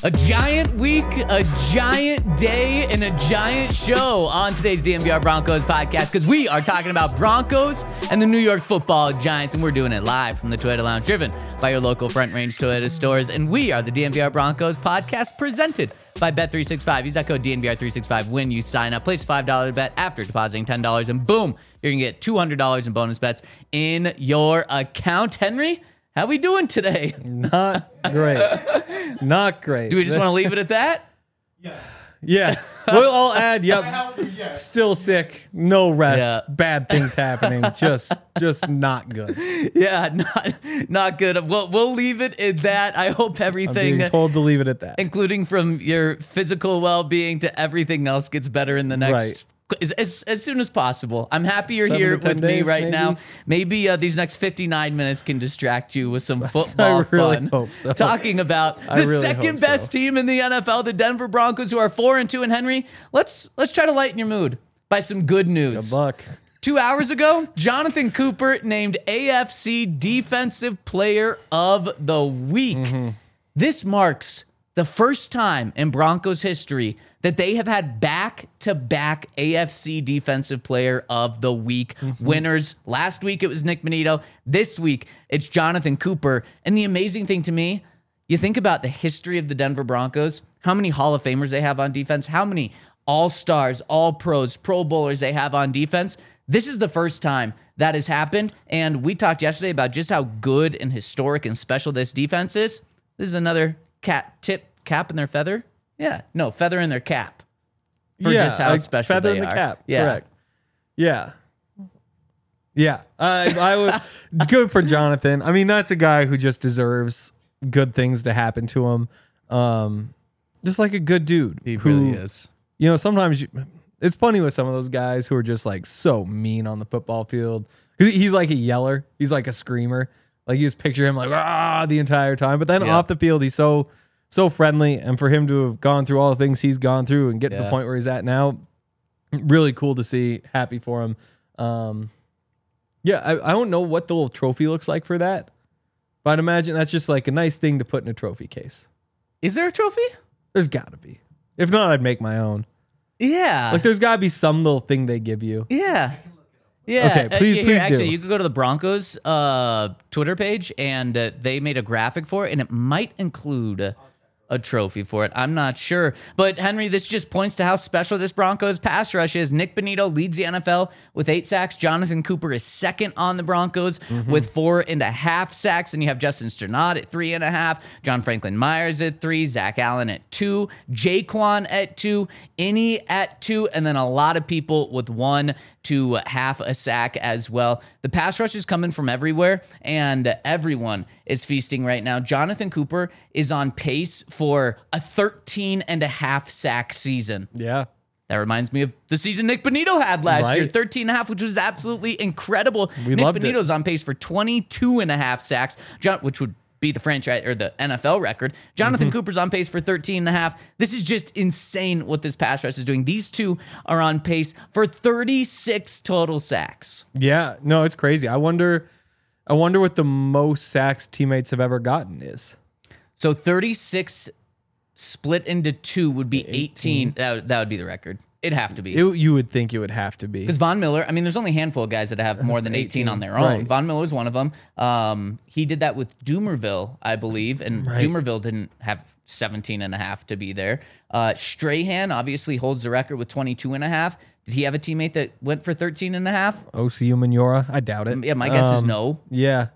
A giant week, a giant day, and a giant show on today's DNVR Broncos podcast because we are talking about Broncos and the New York Football Giants, and we're doing it live from the Toyota Lounge, driven by your local Front Range Toyota stores. And we are the DNVR Broncos podcast presented by Bet365. Use that code DNVR365 when you sign up. Place a $5 bet after depositing $10, and boom, you're going to get $200 in bonus bets in your account. Henry, how we doing today? Not great. Not great. Do we just want to leave it at that? Yeah. We'll all add, yep, still sick, no rest, bad things happening, just not good. Yeah, not good. We'll leave it at that. I hope everything, I'm being told to leave it at that. including from your physical well-being to everything else, gets better in the next as soon as possible. I'm happy you're 7 here to 10 with me days, right maybe. now. Maybe these next 59 minutes can distract you with some football I really fun. hope so. Talking about I the really second hope so. best team in the NFL, the Denver Broncos, who are 4-2. And Henry, let's try to lighten your mood by some good news. Good luck. 2 hours ago, Jonathan Cooper named AFC Defensive Player of the Week. Mm-hmm. This marks the first time in Broncos history that they have had back-to-back AFC Defensive Player of the Week winners. Last week, it was Nick Bonito. This week, it's Jonathan Cooper. And the amazing thing to me, you think about the history of the Denver Broncos, how many Hall of Famers they have on defense, how many All-Stars, All-Pros, Pro Bowlers they have on defense. This is the first time that has happened. And we talked yesterday about just how good and historic and special this defense is. This is another cap in their feather. Yeah, no, feather in their cap for just how like special feather they in the are. cap. Yeah. Correct. Yeah. I would good for Jonathan. I mean, that's a guy who just deserves good things to happen to him. Just like a good dude. He who, really is. You know, sometimes it's funny with some of those guys who are just like so mean on the football field. He's like a yeller. He's like a screamer. Like you just picture him like the entire time. But then off the field, he's so friendly. And for him to have gone through all the things he's gone through and get to the point where he's at now, really cool to see. Happy for him. I don't know what the little trophy looks like for that, but I'd imagine that's just like a nice thing to put in a trophy case. Is there a trophy? There's got to be. If not, I'd make my own. Yeah. Like there's got to be some little thing they give you. Yeah. Yeah. Okay, please do. Actually, you could go to the Broncos Twitter page, and they made a graphic for it, and it might include a trophy for it. I'm not sure. But, Henry, this just points to how special this Broncos pass rush is. Nick Bonito leads the NFL with 8 sacks. Jonathan Cooper is second on the Broncos with 4.5 sacks. And you have Justin Sternad at 3.5. John Franklin Myers at 3. Zach Allen at 2. Jaquan at 2. Innie at 2. And then a lot of people with 1 to half a sack as well. The pass rush is coming from everywhere, and everyone is feasting right now. Jonathan Cooper is on pace for a 13.5 sack season. Yeah. That reminds me of the season Nick Bonito had last year, 13.5, which was absolutely incredible. Nick Bonito's on pace for 22.5 sacks, which would be the franchise or the NFL record. Jonathan Cooper's on pace for 13.5. This is just insane what this pass rush is doing. These two are on pace for 36 total sacks. Yeah. No, it's crazy. I wonder what the most sacks teammates have ever gotten is. So 36 split into 2 would be 18. That would be the record. It'd have to be. You would think it would have to be. Because Von Miller, I mean, there's only a handful of guys that have more than 18 on their own. Right. Von Miller's one of them. He did that with Doomerville, I believe, and Doomerville didn't have 17.5 to be there. Strahan obviously holds the record with 22.5. Did he have a teammate that went for 13.5? OCU Manora? I doubt it. Yeah, my guess is no. Yeah.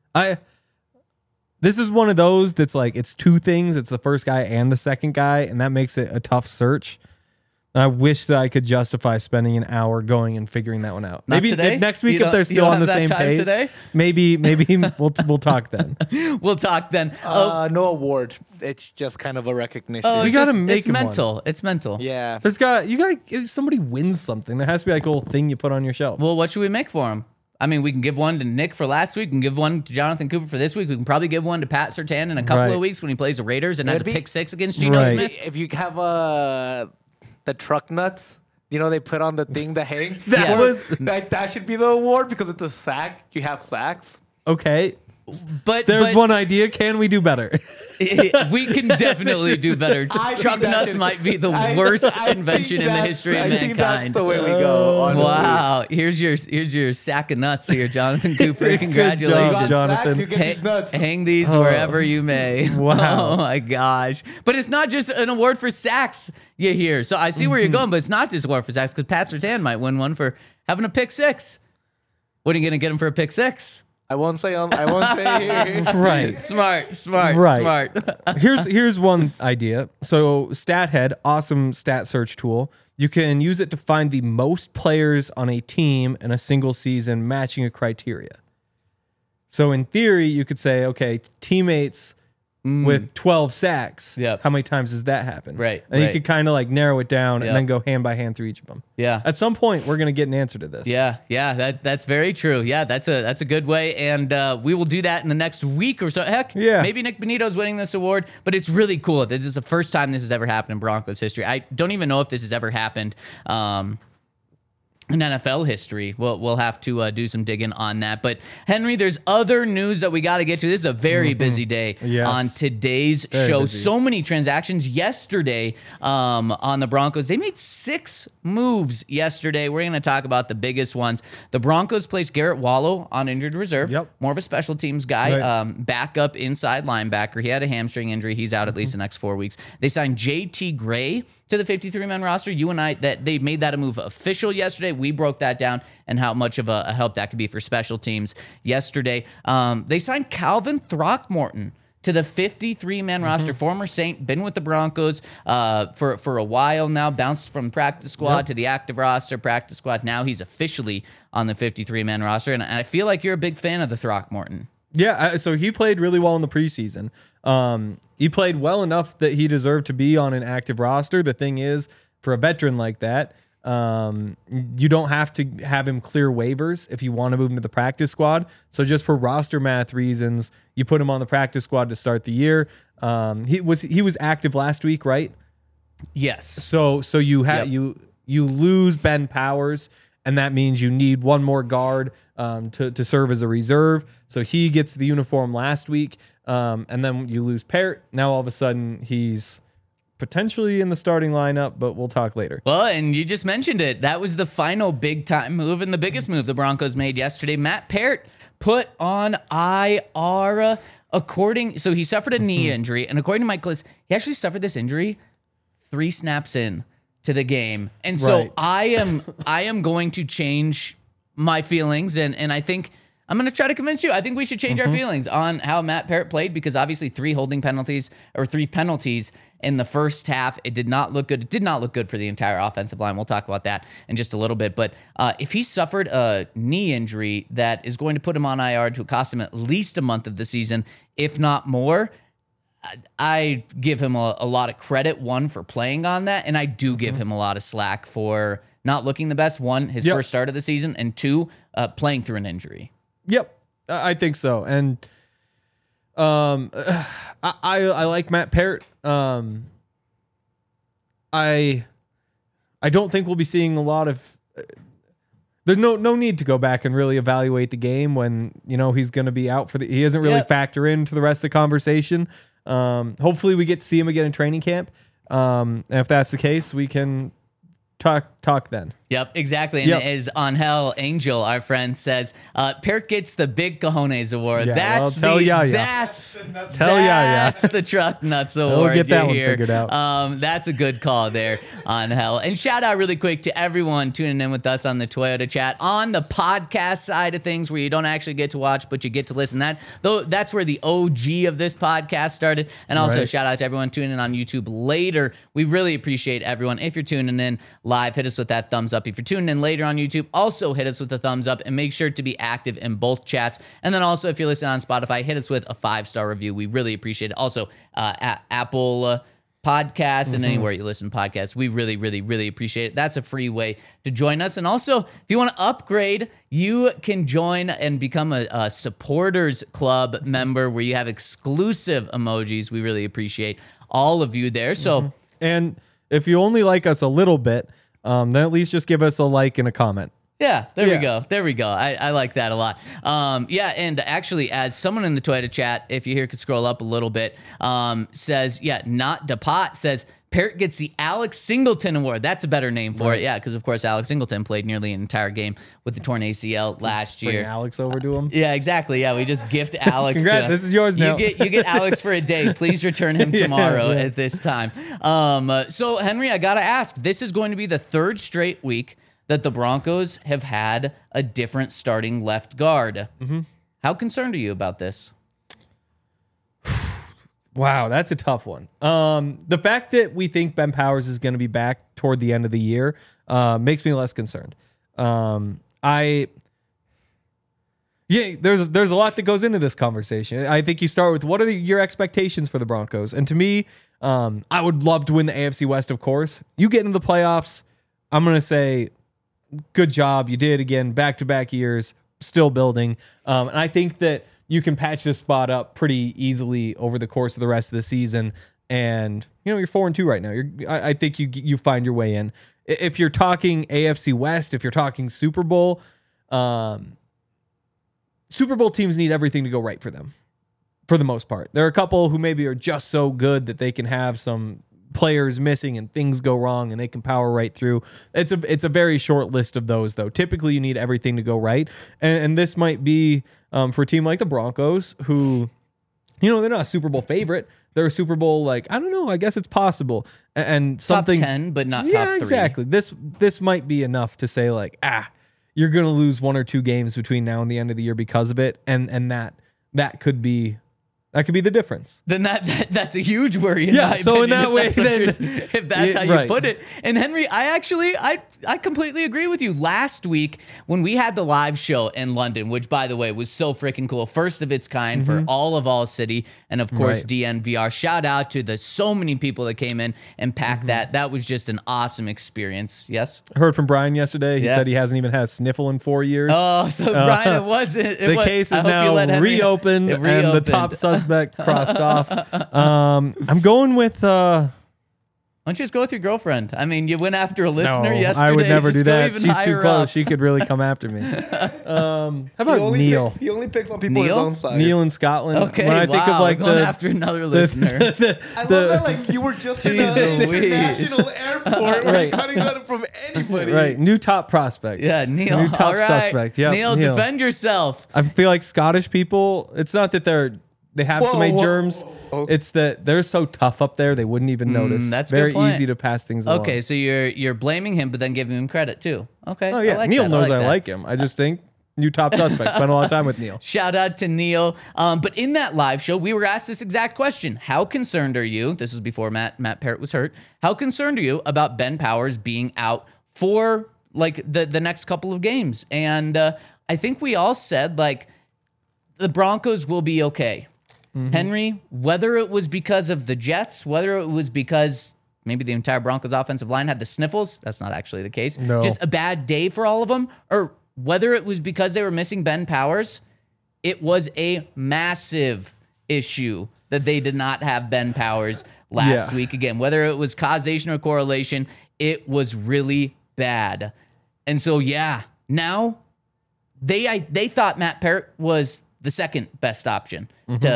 This is one of those that's like, it's two things. It's the first guy and the second guy, and that makes it a tough search. And I wish that I could justify spending an hour going and figuring that one out. Not Maybe today? next week You if they're don't still on have the that same time pace. today? Maybe we'll talk then. We'll talk then. No award. It's just kind of a recognition. We gotta make it's him one. mental. It's mental. yeah. If somebody wins something, there has to be like a little thing you put on your shelf. Well, what should we make for him? I mean, we can give one to Nick for last week. We can give one to Jonathan Cooper for this week. We can probably give one to Pat Surtain in a couple of weeks when he plays the Raiders and has a pick 6 against Geno Right. Smith. If you have the truck nuts, you know, they put on the thing that hangs. That that should be the award because it's a sack. You have sacks. Okay. There's one idea. Can we do better? We can definitely do better. I Truck think that nuts should- might be the worst invention in the history of I think that's mankind. the way we go. Honestly. Wow, here's your sack of nuts here, Jonathan Cooper. Congratulations. job, Jonathan. You get these nuts. Hang these wherever you may. Wow. Oh my gosh. But it's not just an award for sacks you hear. So I see where you're going, but it's not just an award for sacks because Pat Surtain might win one for having a pick six. What are you going to get him for a pick six? I won't say here. Right. Smart. Right. Here's one idea. So StatHead, awesome stat search tool. You can use it to find the most players on a team in a single season matching a criteria. So in theory, you could say, okay, teammates with 12 sacks. Yep. How many times does that happen? Right, And you right. could kind of like narrow it down Yep. and then go hand by hand through each of them. Yeah. At some point, we're going to get an answer to this. Yeah, that's very true. Yeah, that's a good way, and we will do that in the next week or so. Heck, Yeah. maybe Nick Benito's winning this award, but it's really cool. This is the first time this has ever happened in Broncos history. I don't even know if this has ever happened in NFL history. We'll have to do some digging on that. But Henry, there's other news that we got to get to. This is a very busy day Yes. on today's Very show. busy. So many transactions yesterday on the Broncos. They made 6 moves yesterday. We're going to talk about the biggest ones. The Broncos placed Garrett Wallow on injured reserve. Yep. More of a special teams guy. Right. Backup inside linebacker. He had a hamstring injury. He's out at least the next 4 weeks. They signed J.T. Gray to the 53-man roster. You and I, that they made that a move official yesterday. We broke that down and how much of a help that could be for special teams yesterday. They signed Calvin Throckmorton to the 53-man roster. Former Saint, been with the Broncos for a while now. Bounced from practice squad to the active roster, practice squad. Now he's officially on the 53-man roster. And I feel like you're a big fan of the Throckmorton. Yeah, so he played really well in the preseason. He played well enough that he deserved to be on an active roster. The thing is, for a veteran like that, you don't have to have him clear waivers if you want to move him to the practice squad. So just for roster math reasons, you put him on the practice squad to start the year. He was active last week, right? Yes. So you you lose Ben Powers, and that means you need one more guard to serve as a reserve. So he gets the uniform last week, and then you lose Parrott. Now all of a sudden he's potentially in the starting lineup, but we'll talk later. Well, and you just mentioned it. That was the final big-time move and the biggest move the Broncos made yesterday. Matt Parrott put on IR. So he suffered a knee injury, and according to Mike Klis, he actually suffered this injury 3 snaps in to the game. And so Right. I am going to change my feelings, and I think I'm going to try to convince you. I think we should change our feelings on how Matt Parrott played, because obviously 3 penalties in the first half. It did not look good. It did not look good for the entire offensive line. We'll talk about that in just a little bit. But if he suffered a knee injury that is going to put him on IR to cost him at least a month of the season, if not more, I give him a lot of credit, one, for playing on that, and I do give him a lot of slack for not looking the best. One, his first start of the season, and 2, playing through an injury. Yep, I think so. And I like Matt Parrott. I don't think we'll be seeing a lot of. There's no need to go back and really evaluate the game when he's going to be out for he doesn't really factor into the rest of the conversation. Hopefully we get to see him again in training camp. And if that's the case, we can talk then. Yep, exactly. And as Angel Angel, our friend, says, Parrott gets the Big Cojones Award. Yeah, That's well, tell Yaya. That's Yaya. the Truck Nuts Award. We'll get that you one hear. figured out. That's a good call there, Angel. And shout out really quick to everyone tuning in with us on the Toyota Chat on the podcast side of things, where you don't actually get to watch, but you get to listen. That's where the OG of this podcast started. And also shout out to everyone tuning in on YouTube later. We really appreciate everyone. If you're tuning in live, hit us with that thumbs up. If you're tuning in later on YouTube, also hit us with a thumbs up, and make sure to be active in both chats. And then also, if you're listening on Spotify, hit us with a 5-star review. We really appreciate it. Also, Apple Podcasts and anywhere you listen to podcasts, we really, really, really appreciate it. That's a free way to join us. And also, if you want to upgrade, you can join and become a supporters club member, where you have exclusive emojis. We really appreciate all of you there. So, And if you only like us a little bit, then at least just give us a like and a comment. Yeah, there Yeah. we go. There we go. I like that a lot. Yeah, and actually, as someone in the Twitter chat, if you here could scroll up a little bit, says, not DePot says, Parrott gets the Alex Singleton Award. That's a better name for it. Yeah, because, of course, Alex Singleton played nearly an entire game with the torn ACL last Bring year. Alex over to him. Yeah, exactly. Yeah, we just gift Alex. Congrats, this is yours now. You get Alex for a day. Please return him tomorrow yeah. at this time. So, Henry, I got to ask, this is going to be the third straight week that the Broncos have had a different starting left guard. Mm-hmm. How concerned are you about this? Wow, that's a tough one. The fact that we think Ben Powers is going to be back toward the end of the year makes me less concerned. There's a lot that goes into this conversation. I think you start with what are your expectations for the Broncos, and to me, I would love to win the AFC West. Of course, you get into the playoffs, I'm going to say, good job, you did again, back-to-back years, still building, and I think that you can patch this spot up pretty easily over the course of the rest of the season. And, you're 4-2 right now. I think you find your way in. If you're talking AFC West, if you're talking Super Bowl teams need everything to go right for them, for the most part. There are a couple who maybe are just so good that they can have some players missing and things go wrong and they can power right through. It's a very short list of those, though. Typically, you need everything to go right. And this might be for a team like the Broncos, who, they're not a Super Bowl favorite. They're a Super Bowl, I don't know. I guess it's possible. And something top 10, but not top 3. Exactly. This might be enough to say you're going to lose 1 or 2 games between now and the end of the year because of it. And that could be the difference. Then that's a huge worry. In my so opinion, in that way, if that's how you right. put it. And Henry, I completely agree with you. Last week when we had the live show in London, which by the way was so freaking cool, first of its kind for all City, and of course Right. DNVR. Shout out to the so many people that came in and packed that. That was just an awesome experience. Yes. I heard from Brian yesterday. He Yeah. said he hasn't even had a sniffle in 4 years. Oh, so Brian, it wasn't. The case is now reopened, and the top suspect crossed off. I'm going with. Why don't you just go with your girlfriend? I mean, you went after a listener yesterday. I would never Just do go that. even She's higher too close. up. She could really come after me. How about Neil? He only picks on people Neil? his own size. Neil in Scotland. Okay, When I think of going after another listener. I love that you were just in an Jeez Louise. international airport where Right. you're cutting out from anybody. right, new top prospect. Yeah, Neil. New top All right. suspect. Yeah, Neil, defend yourself. I feel like Scottish people. It's not that they have so many germs. It's that they're so tough up there they wouldn't even notice. that's a very good point. easy to pass things along. Okay, so you're blaming him, but then giving him credit too. Okay. Oh yeah, I like Neil that. knows I that. like him. I just think new top suspect. Spent a lot of time with Neil. Shout out to Neil. But in that live show, we were asked this exact question. How concerned are you? This was before Matt Parrott was hurt. How concerned are you about Ben Powers being out for the next couple of games? And I think we all said the Broncos will be okay. Mm-hmm. Henry, whether it was because of the Jets, whether it was because maybe the entire Broncos offensive line had the sniffles, that's not actually the case. No. Just a bad day for all of them, or whether it was because they were missing Ben Powers, it was a massive issue that they did not have Ben Powers last week. Again, whether it was causation or correlation, it was really bad. And so, now they thought Matt Parrott was the second best option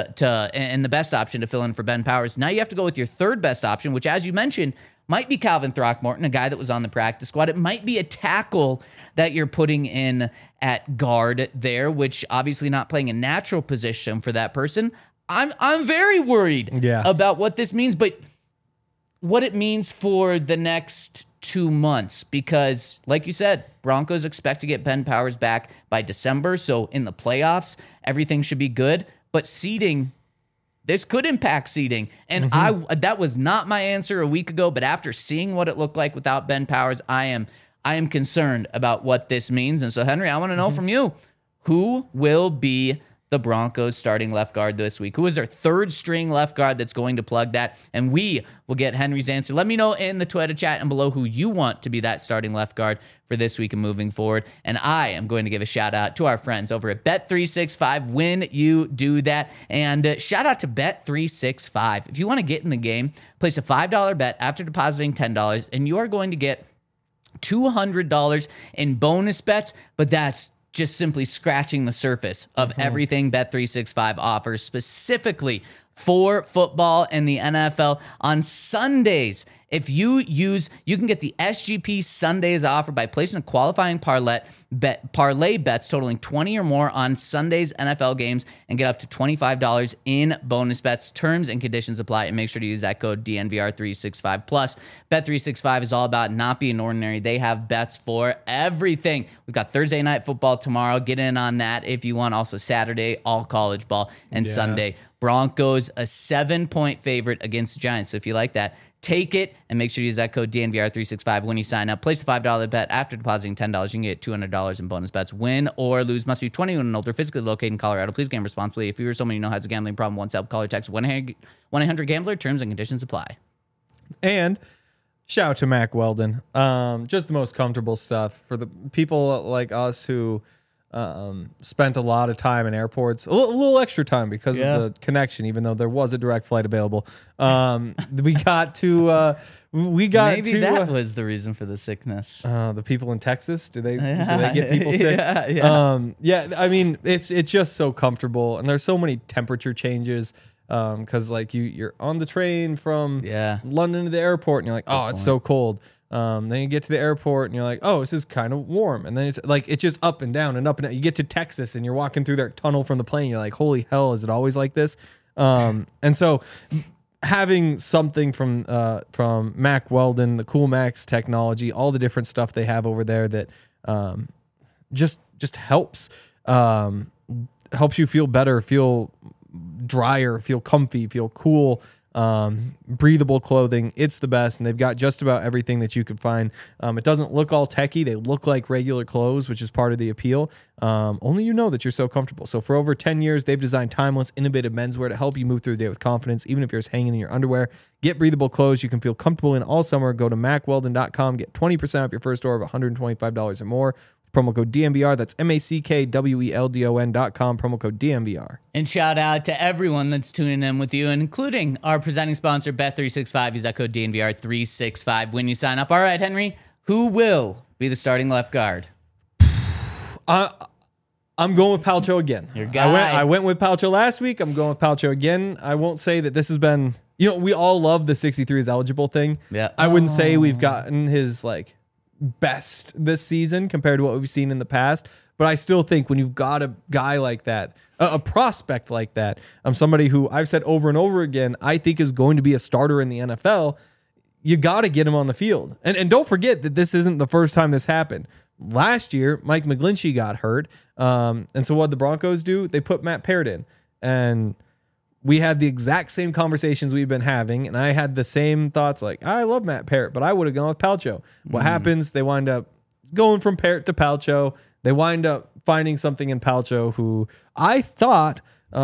and the best option to fill in for Ben Powers. Now you have to go with your third best option, which, as you mentioned, might be Calvin Throckmorton, a guy that was on the practice squad. It might be a tackle that you're putting in at guard there, which obviously not playing a natural position for that person. I'm very worried about what this means, but what it means for the next 2 months, because like you said, Broncos expect to get Ben Powers back by December. So in the playoffs, everything should be good, but seeding, this could impact seeding. And that was not my answer a week ago, but after seeing what it looked like without Ben Powers, I am concerned about what this means. And so Henry, I want to know from you, who will be the Broncos starting left guard this week? Who is their third string left guard that's going to plug that? And we will get Henry's answer. Let me know in the Twitter chat and below who you want to be that starting left guard for this week and moving forward. And I am going to give a shout out to our friends over at Bet365 when you do that. And shout out to Bet365. If you want to get in the game, place a $5 bet after depositing $10, and you are going to get $200 in bonus bets, but that's just simply scratching the surface of everything Bet365 offers specifically for football and the NFL. On Sundays, if you can get the SGP Sundays offer by placing a qualifying parlay bets totaling 20 or more on Sunday's NFL games and get up to $25 in bonus bets. Terms and conditions apply, and make sure to use that code DNVR365. Plus, Bet365 is all about not being ordinary. They have bets for everything. We've got Thursday night football tomorrow. Get in on that if you want. Also Saturday, all college ball, and Sunday, Broncos a 7-point favorite against the Giants. So if you like that, take it and make sure to use that code DNVR365 when you sign up. Place a $5 bet. After depositing $10, you can get $200 in bonus bets. Win or lose. Must be 21 and older. Physically located in Colorado. Please gamble responsibly. If you or someone you know has a gambling problem, once help, call or text 1-800-GAMBLER. Terms and conditions apply. And shout out to Mac Weldon. Just the most comfortable stuff for the people like us who spent a lot of time in airports, a little extra time because of the connection, even though there was a direct flight available. Maybe that was the reason for the sickness. The people in Texas, do they get people sick? I mean, it's just so comfortable, and there's so many temperature changes. Because like you're on the train from London to the airport, and you're like, oh, it's so cold. Then you get to the airport and you're like, oh, this is kind of warm. And then it's like, it's just up and down and up and down. You get to Texas and you're walking through their tunnel from the plane. You're like, holy hell, is it always like this? And so having something from Mac Weldon, the Cool Max technology, all the different stuff they have over there that just helps you feel better, feel drier, feel comfy, feel cool. Breathable clothing, it's the best, and they've got just about everything that you could find. It doesn't look all techie. They look like regular clothes, which is part of the appeal. Only you know that you're so comfortable. So for over 10 years, they've designed timeless, innovative menswear to help you move through the day with confidence, even if you're just hanging in your underwear. Get breathable clothes you can feel comfortable in all summer. Go to macweldon.com. Get 20% off your first order of $125 or more. Promo code DNVR. That's MACKWELDON.com. Promo code DNVR. And shout out to everyone that's tuning in with you, including our presenting sponsor, Bet365. Use that code DNVR365 when you sign up. All right, Henry, who will be the starting left guard? I'm going with Palcho again. Your guy. I went with Palcho last week. I'm going with Palcho again. I won't say that this has been, we all love the 63 is eligible thing. Yeah. I wouldn't say we've gotten his best this season compared to what we've seen in the past, but I still think when you've got a guy like that, a prospect like that, somebody who I've said over and over again I think is going to be a starter in the NFL, you got to get him on the field. And don't forget that this isn't the first time this happened. Last year, Mike McGlinchey got hurt, and so what the Broncos do? They put Matt Parrott in, and we had the exact same conversations we've been having, and I had the same thoughts like, I love Matt Parrott, but I would have gone with Palcho. What happens? They wind up going from Parrott to Palcho. They wind up finding something in Palcho who I thought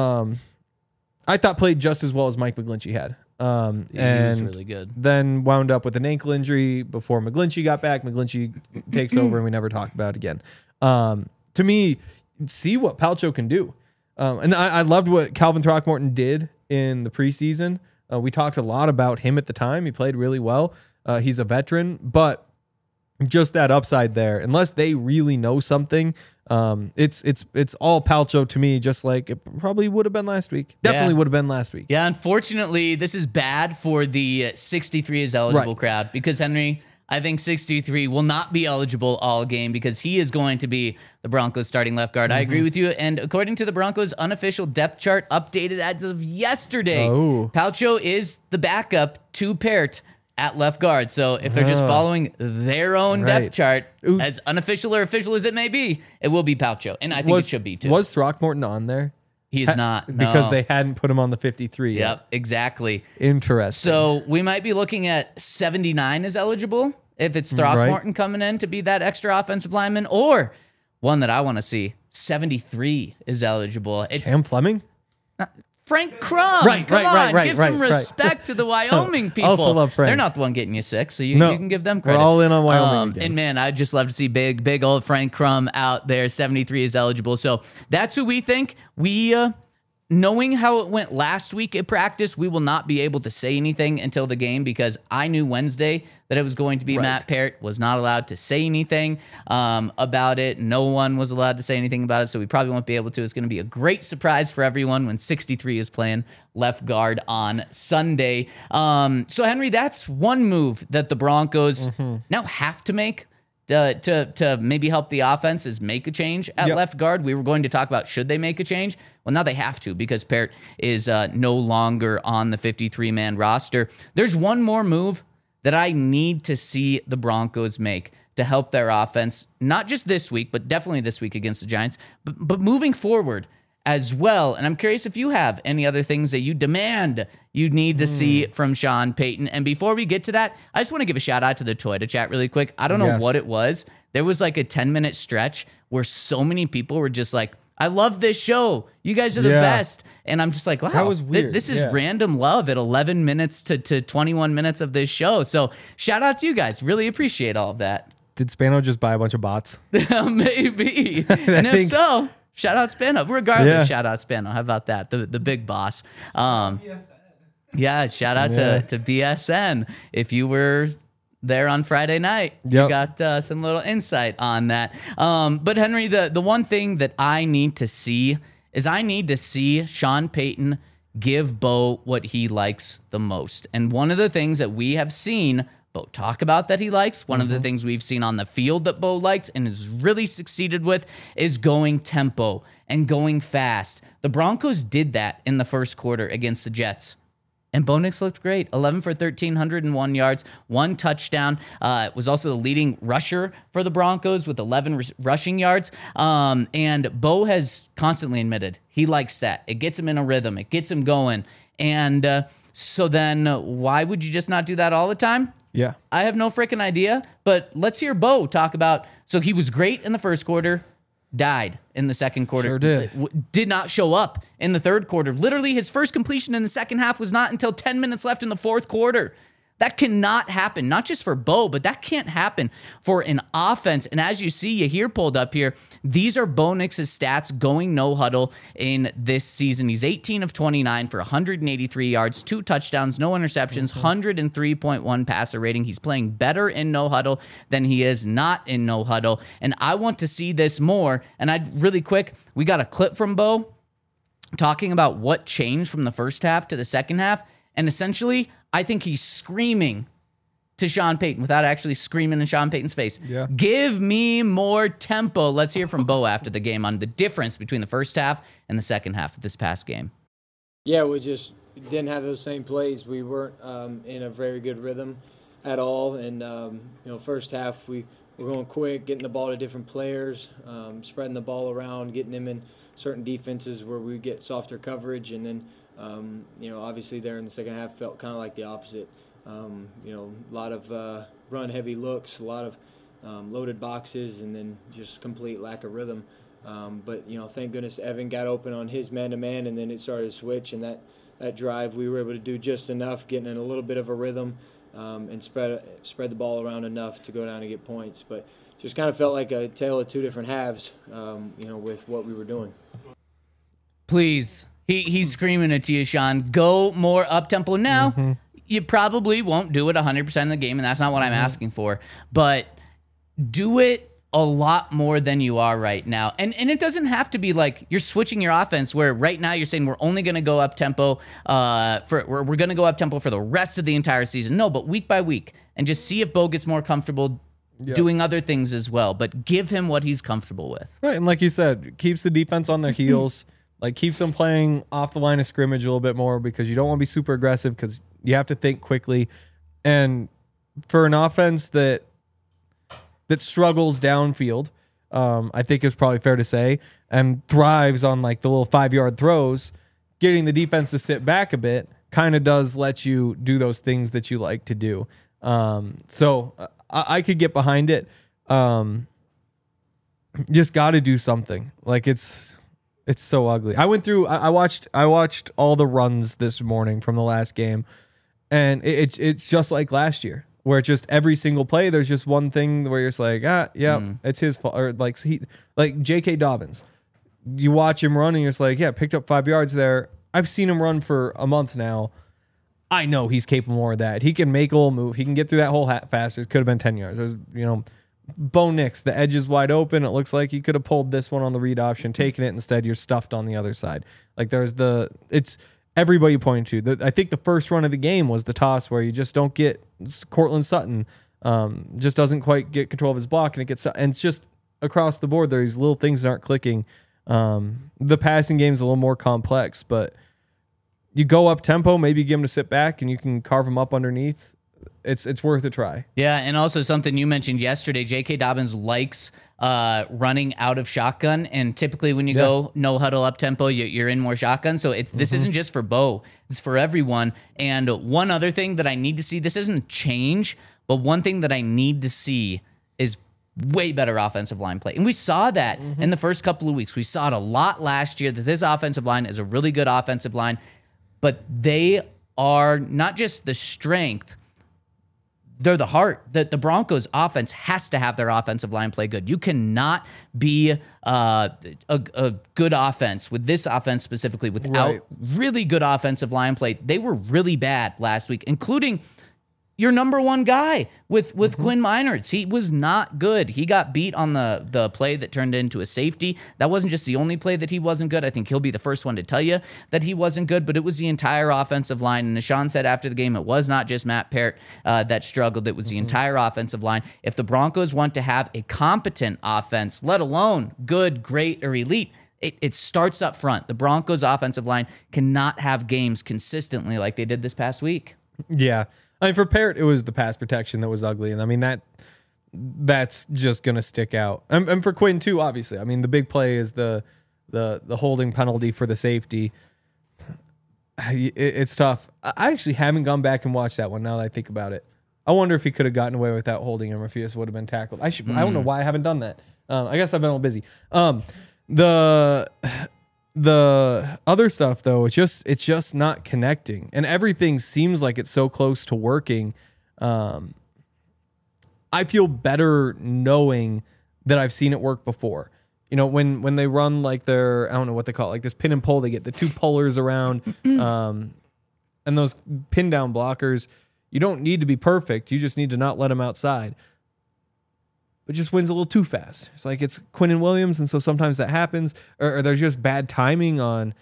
played just as well as Mike McGlinchey had. He was really good. Then wound up with an ankle injury before McGlinchey got back. McGlinchey takes over, and we never talked about it again. To me, see what Palcho can do. And I loved what Calvin Throckmorton did in the preseason. We talked a lot about him at the time. He played really well. He's a veteran, but just that upside there, unless they really know something, it's all Palcho to me, just like it probably would have been last week. Definitely would have been last week. Yeah, unfortunately, this is bad for the 63 is eligible crowd because, Henry, I think 63 will not be eligible all game because he is going to be the Broncos starting left guard. I agree with you. And according to the Broncos unofficial depth chart updated as of yesterday, Palcho is the backup to Parrott at left guard. So if they're just following their own depth chart, as unofficial or official as it may be, it will be Palcho. And I think it should be too. Was Throckmorton on there? He's not. No. Because they hadn't put him on the 53 yet. Yep, exactly. Interesting. So we might be looking at 79 as eligible if it's Throckmorton coming in to be that extra offensive lineman, or one that I want to see, 73 is eligible. Cam Fleming? Frank Crum. Come on, give some respect to the Wyoming people. Also love Frank. They're not the one getting you sick, so you can give them credit. We're all in on Wyoming again. And man, I'd just love to see big old Frank Crum out there. 73 is eligible. So that's who we think. We knowing how it went last week at practice, we will not be able to say anything until the game because I knew Wednesday that it was going to be Matt Peart, was not allowed to say anything about it. No one was allowed to say anything about it, so we probably won't be able to. It's going to be a great surprise for everyone when 63 is playing left guard on Sunday. So, Henry, that's one move that the Broncos now have to make. To maybe help the offense is make a change at left guard. We were going to talk about should they make a change. Well, now they have to because Peart is no longer on the 53-man roster. There's one more move that I need to see the Broncos make to help their offense, not just this week, but definitely this week against the Giants, but moving forward as well. And I'm curious if you have any other things that you demand you need to see from Sean Payton. And before we get to that, I just want to give a shout out to the Toyota chat really quick. I don't know what it was. There was like a 10-minute stretch where so many people were just like, I love this show. You guys are the best. And I'm just like, wow, that was weird. This is random love at 11 minutes to 21 minutes of this show. So shout out to you guys. Really appreciate all of that. Did Spano just buy a bunch of bots? Maybe. And if so, shout out Spano. Regardless, shout out Spano. How about that? The big boss. Yeah, shout out to BSN. If you were there on Friday night, you got some little insight on that. But Henry, the one thing that I need to see is I need to see Sean Payton give Bo what he likes the most. And one of the things that we have seen Bo talk about that he likes, one of the things we've seen on the field that Bo likes and has really succeeded with is going tempo and going fast. The Broncos did that in the first quarter against the Jets. And Bo Nix looked great. 11 for 1,301 yards, 1 touchdown. Was also the leading rusher for the Broncos with 11 rushing yards. And Bo has constantly admitted he likes that. It gets him in a rhythm. It gets him going. And so then why would you just not do that all the time? Yeah. I have no freaking idea. But let's hear Bo talk about, so he was great in the first quarter, died in the second quarter. Sure did. Did not show up in the third quarter. Literally, his first completion in the second half was not until 10 minutes left in the fourth quarter. That cannot happen, not just for Bo, but that can't happen for an offense. And as you see, you hear pulled up here, these are Bo Nix's stats going no huddle in this season. He's 18 of 29 for 183 yards, 2 touchdowns, no interceptions, 103.1 passer rating. He's playing better in no huddle than he is not in no huddle. And I want to see this more. And really quick, we got a clip from Bo talking about what changed from the first half to the second half. And essentially, I think he's screaming to Sean Payton without actually screaming in Sean Payton's face. Yeah. Give me more tempo. Let's hear from Bo after the game on the difference between the first half and the second half of this past game. Yeah, we just didn't have those same plays. We weren't in a very good rhythm at all. And, first half we were going quick, getting the ball to different players, spreading the ball around, getting them in certain defenses where we get softer coverage. And then, obviously there in the second half felt kind of like the opposite. A lot of run-heavy looks, a lot of loaded boxes, and then just complete lack of rhythm. But thank goodness Evan got open on his man-to-man, and then it started to switch. And that drive, we were able to do just enough, getting in a little bit of a rhythm, and spread the ball around enough to go down and get points. But just kind of felt like a tale of two different halves, with what we were doing. Please. He's screaming it to you, Sean. Go more up-tempo. Now, you probably won't do it 100% of the game, and that's not what I'm asking for. But do it a lot more than you are right now. And it doesn't have to be like you're switching your offense where right now you're saying we're only going to go up-tempo we're going to go up-tempo for the rest of the entire season. No, but week by week. And just see if Bo gets more comfortable doing other things as well. But give him what he's comfortable with. Right, and like you said, keeps the defense on their heels. Like, keeps them playing off the line of scrimmage a little bit more because you don't want to be super aggressive because you have to think quickly. And for an offense that struggles downfield, I think is probably fair to say, and thrives on like the little 5-yard throws, getting the defense to sit back a bit kind of does let you do those things that you like to do. So I could get behind it. Just got to do something. Like, it's so ugly. I went through. I watched all the runs this morning from the last game, and it's just like last year, where just every single play there's just one thing where you're just like, it's his fault, or like J.K. Dobbins you watch him run and you're just like, yeah, picked up 5 yards there. I've seen him run for a month now. I know he's capable more of that. He can make a little move. He can get through that hole faster. It could have been 10 yards. There's, Bo Nix, the edge is wide open. It looks like he could have pulled this one on the read option, taken it. Instead, you're stuffed on the other side. Like it's everybody pointing to. I think the first run of the game was the toss where you just don't get Cortland Sutton, just doesn't quite get control of his block, and it's just across the board. There's little things that aren't clicking. The passing game is a little more complex, but you go up tempo, maybe you get him to sit back and you can carve him up underneath. It's worth a try. Yeah, and also something you mentioned yesterday, J.K. Dobbins likes running out of shotgun, and typically when you go no huddle up tempo, you're in more shotgun. So this isn't just for Bo, it's for everyone. And one other thing that I need to see, this isn't a change, but one thing that I need to see is way better offensive line play. And we saw that in the first couple of weeks. We saw it a lot last year that this offensive line is a really good offensive line, but they are not just the strength, they're the heart. That the Broncos offense has to have their offensive line play good. You cannot be a good offense with this offense specifically without really good offensive line play. They were really bad last week, including your number one guy with Quinn Meinerz. He was not good. He got beat on the play that turned into a safety. That wasn't just the only play that he wasn't good. I think he'll be the first one to tell you that he wasn't good, but it was the entire offensive line. And as Sean said after the game, it was not just Matt Parrott that struggled. It was the entire offensive line. If the Broncos want to have a competent offense, let alone good, great, or elite, it starts up front. The Broncos offensive line cannot have games consistently like they did this past week. Yeah. I mean, for Parrott, it was the pass protection that was ugly, and I mean that's just gonna stick out. And for Quinn too, obviously. I mean, the big play is the holding penalty for the safety. It's tough. I actually haven't gone back and watched that one now that I think about it. I wonder if he could have gotten away without holding him, or if he just would have been tackled. I don't know why I haven't done that. I guess I've been a little busy. The other stuff though, it's just not connecting, and everything seems like it's so close to working. I feel better knowing that I've seen it work before. When they run like their, I don't know what they call it, like this pin and pull, they get the two pullers around, and those pin down blockers. You don't need to be perfect. You just need to not let them outside. But just wins a little too fast. It's like it's Quinnen Williams, and so sometimes that happens, or there's just bad timing on,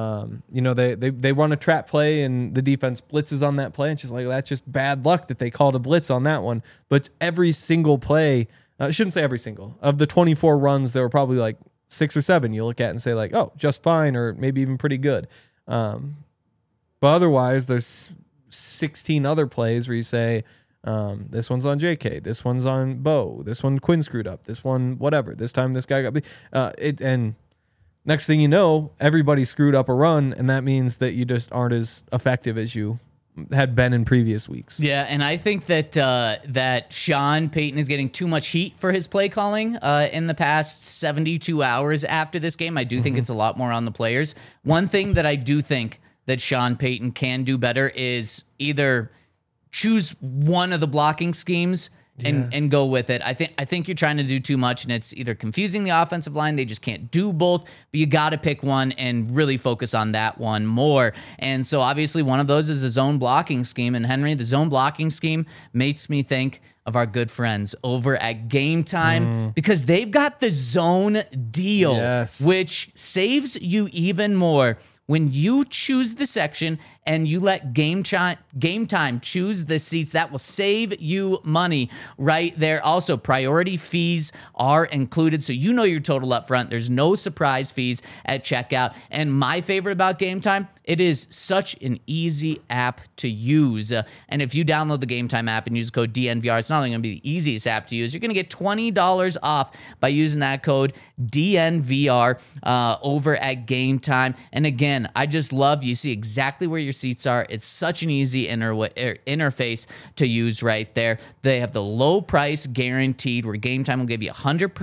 they run a trap play and the defense blitzes on that play. And it's just like, that's just bad luck that they called a blitz on that one. But every single play, I shouldn't say every single, of the 24 runs, there were probably like 6 or 7 you look at and say like, oh, just fine, or maybe even pretty good. But otherwise, there's 16 other plays where you say, this one's on JK, this one's on Bo, this one Quinn screwed up, this one whatever, this time this guy got and next thing you know, everybody screwed up a run, and that means that you just aren't as effective as you had been in previous weeks. Yeah, and I think that that Sean Payton is getting too much heat for his play calling in the past 72 hours after this game. I do think it's a lot more on the players. One thing that I do think that Sean Payton can do better is either choose one of the blocking schemes and go with it. I think you're trying to do too much, and it's either confusing the offensive line. They just can't do both, but you got to pick one and really focus on that one more. And so obviously one of those is a zone blocking scheme. And Henry, the zone blocking scheme makes me think of our good friends over at Game Time, because they've got the zone deal, which saves you even more when you choose the section and you let Game Time choose the seats. That will save you money right there. Also, priority fees are included, so you know your total up front. There's no surprise fees at checkout. And my favorite about Game Time, it is such an easy app to use. And if you download the Game Time app and use code DNVR, it's not only going to be the easiest app to use, you're going to get $20 off by using that code DNVR over at Game Time. And again, I just love, you see exactly where your seats are. It's such an easy interface to use right there. They have the low price guaranteed, where Game Time will give you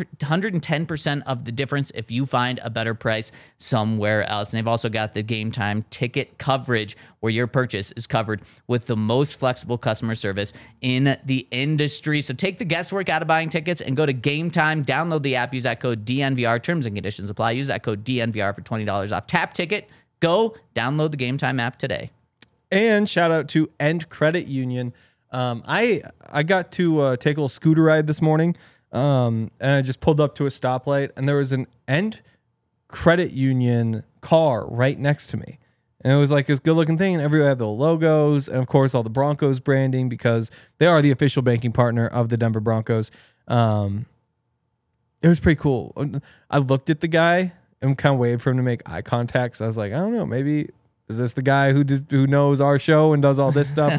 110% of the difference if you find a better price somewhere else. And they've also got the Game Time ticket coverage, where your purchase is covered with the most flexible customer service in the industry. So take the guesswork out of buying tickets and go to Game Time. Download the app. Use that code DNVR. Terms and conditions apply. Use that code DNVR for $20 off. Tap ticket. Go download the Game Time app today. And shout out to End Credit Union. I got to take a little scooter ride this morning, and I just pulled up to a stoplight, and there was an End Credit Union car right next to me. And it was like this good looking thing, and everywhere had the logos, and of course all the Broncos branding, because they are the official banking partner of the Denver Broncos. It was pretty cool. I looked at the guy and kind of waited for him to make eye contact. So I was like, I don't know, maybe is this the guy who knows our show and does all this stuff?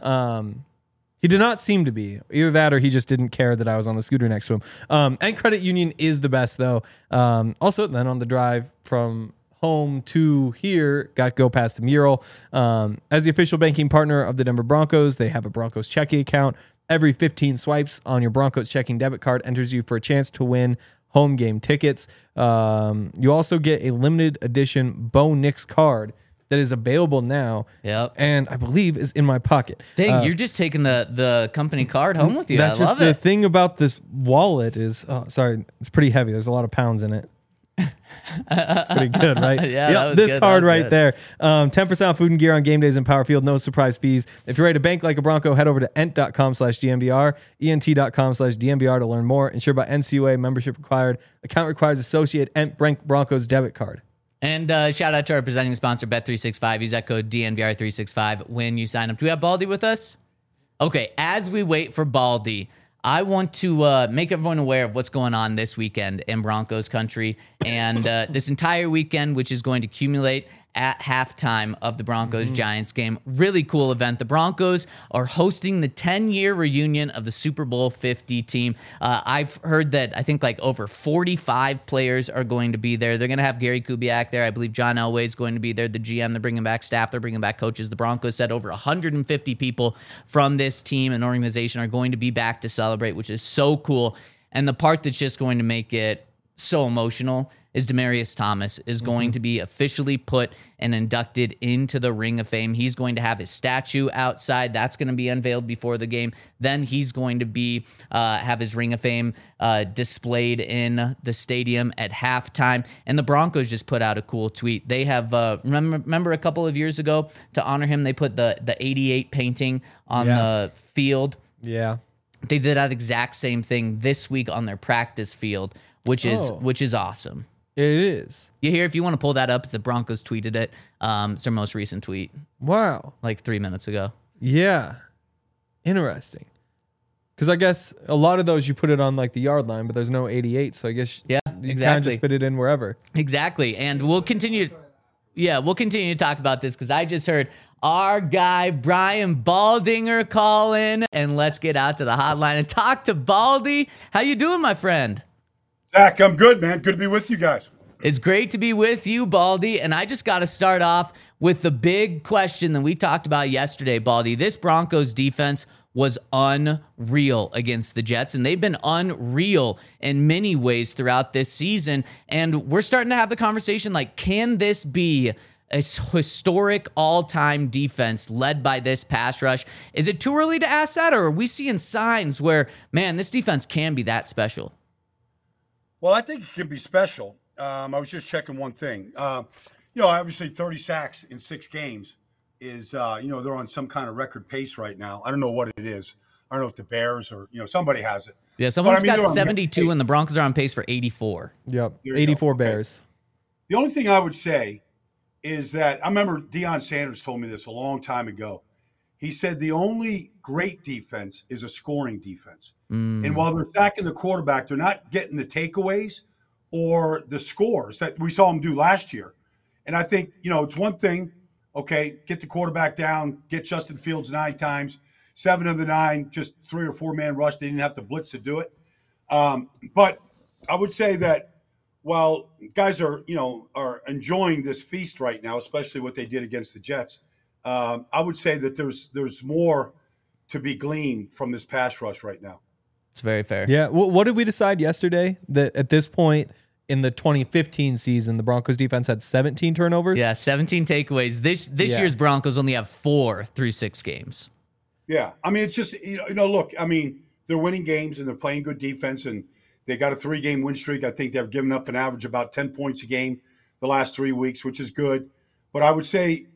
He did not seem to be. Either that or he just didn't care that I was on the scooter next to him. And Credit Union is the best, though. Also, then on the drive from home to here, got to go past the mural. As the official banking partner of the Denver Broncos, they have a Broncos checking account. Every 15 swipes on your Broncos checking debit card enters you for a chance to win home game tickets. You also get a limited edition Bo Nix card that is available now. Yep. And I believe is in my pocket. Dang, you're just taking the company card home with you. That's I love just the it. thing about this wallet is, sorry, it's pretty heavy. There's a lot of pounds in it. Pretty good, right? Yeah, Yep, that was this good. card That was right good. there. 10% off food and gear on game days in Power Field. No surprise fees. If you're ready to bank like a Bronco, head over to ent.com/DNVR, ent.com/DNVR to learn more. Insured by NCUA, membership required. Account requires associate Ent Broncos debit card. And shout out to our presenting sponsor, Bet365. Use that code DNVR365 when you sign up. Do we have Baldy with us? Okay, as we wait for Baldy, I want to make everyone aware of what's going on this weekend in Broncos country and this entire weekend, which is going to accumulate at halftime of the Broncos-Giants game. Really cool event. The Broncos are hosting the 10-year reunion of the Super Bowl 50 team. I've heard that I think like over 45 players are going to be there. They're going to have Gary Kubiak there. I believe John Elway is going to be there, the GM. They're bringing back staff. They're bringing back coaches. The Broncos said over 150 people from this team and organization are going to be back to celebrate, which is so cool. And the part that's just going to make it so emotional is Demaryius Thomas is going to be officially put and inducted into the Ring of Fame. He's going to have his statue outside. That's going to be unveiled before the game. Then he's going to be have his Ring of Fame displayed in the stadium at halftime. And the Broncos just put out a cool tweet. They have remember a couple of years ago, to honor him, they put the 88 painting on the field. Yeah. They did that exact same thing this week on their practice field, which is awesome. It is. You hear, if you want to pull that up, the Broncos tweeted it. It's their most recent tweet, Wow. like 3 minutes ago. Yeah. Interesting. Because I guess a lot of those you put it on like the yard line, but there's no 88. So I guess you kind of exactly. just fit it in wherever. Exactly. And we'll continue. Yeah, we'll continue to talk about this because I just heard our guy, Brian Baldinger, call in. And let's get out to the hotline and talk to Baldy. How you doing, my friend? Zach, I'm good, man. Good to be with you guys. It's great to be with you, Baldy. And I just got to start off with the big question that we talked about yesterday, Baldy. This Broncos defense was unreal against the Jets, and they've been unreal in many ways throughout this season. And we're starting to have the conversation like, can this be a historic all-time defense led by this pass rush? Is it too early to ask that, or are we seeing signs where, man, this defense can be that special? Well, I think it can be special. I was just checking one thing. Obviously 30 sacks in 6 games is, they're on some kind of record pace right now. I don't know what it is. I don't know if the Bears or, somebody has it. Yeah, someone's got they're on 72, and the Broncos are on pace for 84. Yep. There you 84 go. Okay. Bears. The only thing I would say is that I remember Deion Sanders told me this a long time ago. He said the only great defense is a scoring defense. And while they're sacking the quarterback, they're not getting the takeaways or the scores that we saw them do last year. And I think, it's one thing, okay, get the quarterback down, get Justin Fields 9 times, 7 of the 9, just 3 or 4 man rush. They didn't have to blitz to do it. But I would say that while guys are enjoying this feast right now, especially what they did against the Jets, I would say that there's more to be gleaned from this pass rush right now. It's very fair. Yeah. What did we decide yesterday? That at this point in the 2015 season, the Broncos defense had 17 turnovers? Yeah, 17 takeaways. This year's Broncos only have 4 through 6 games. Yeah. I mean, it's just, look, I mean, they're winning games and they're playing good defense, and they got a 3-game win streak. I think they've given up an average about 10 points a game the last 3 weeks, which is good. But I would say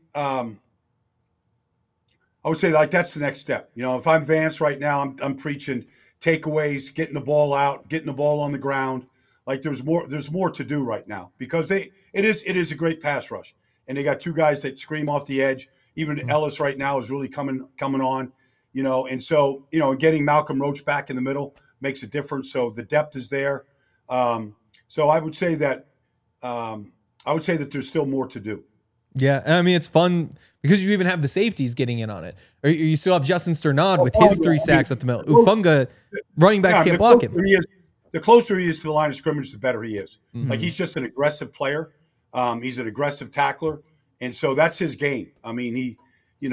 like that's the next step. If I'm Vance right now, I'm preaching takeaways, getting the ball out, getting the ball on the ground. Like there's more to do right now because it is a great pass rush, and they got 2 guys that scream off the edge. Even Ellis right now is really coming on, and so getting Malcolm Roach back in the middle makes a difference. So the depth is there. So I would say that there's still more to do. Yeah, I mean, it's fun because you even have the safeties getting in on it. Or you still have Justin Sternad with his 3 sacks at the middle. Ufunga, running backs can't block him. The closer he is to the line of scrimmage, the better he is. Mm-hmm. Like he's just an aggressive player. He's an aggressive tackler, and so that's his game. I mean, his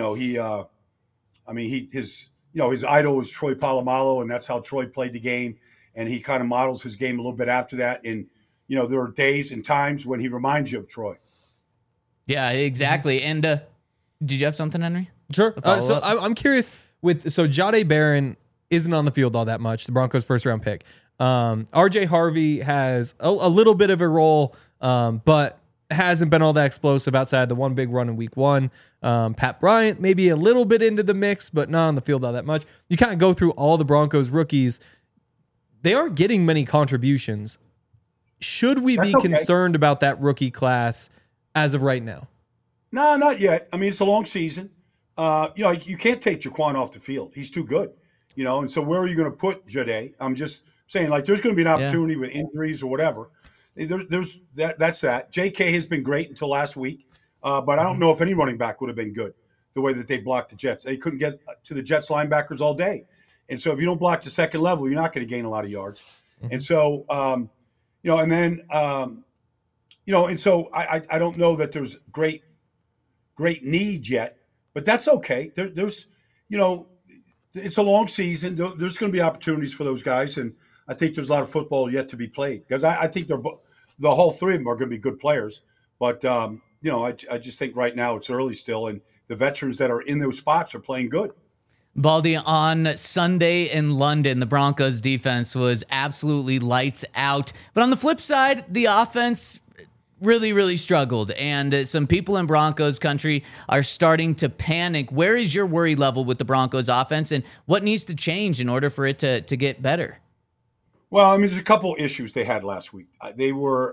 idol is Troy Polamalu, and that's how Troy played the game. And he kind of models his game a little bit after that. And there are days and times when he reminds you of Troy. Yeah, exactly. And did you have something, Henry? Sure. So I'm curious Jahdae Barron isn't on the field all that much, the Broncos' first-round pick. RJ Harvey has a little bit of a role, but hasn't been all that explosive outside the one big run in week 1. Pat Bryant maybe a little bit into the mix, but not on the field all that much. You kind of go through all the Broncos rookies. They aren't getting many contributions. Should we be concerned about that rookie class as of right now? No, not yet. I mean, it's a long season. You can't take Jaquan off the field. He's too good. And so where are you going to put Jahdae? I'm just saying, like, there's going to be an opportunity with injuries or whatever. There's that's that. J.K. has been great until last week, but I don't know if any running back would have been good the way that they blocked the Jets. They couldn't get to the Jets linebackers all day. And so if you don't block the second level, you're not going to gain a lot of yards. Mm-hmm. And so, and so I don't know that there's great need yet, but that's okay. There's it's a long season. There's going to be opportunities for those guys, and I think there's a lot of football yet to be played because I think the whole 3 of them are going to be good players. But I just think right now it's early still, and the veterans that are in those spots are playing good. Baldy, on Sunday in London, the Broncos defense was absolutely lights out. But on the flip side, the offense really, really struggled. And some people in Broncos country are starting to panic. Where is your worry level with the Broncos offense, and what needs to change in order for it to get better? Well, I mean, there's a couple issues they had last week. They were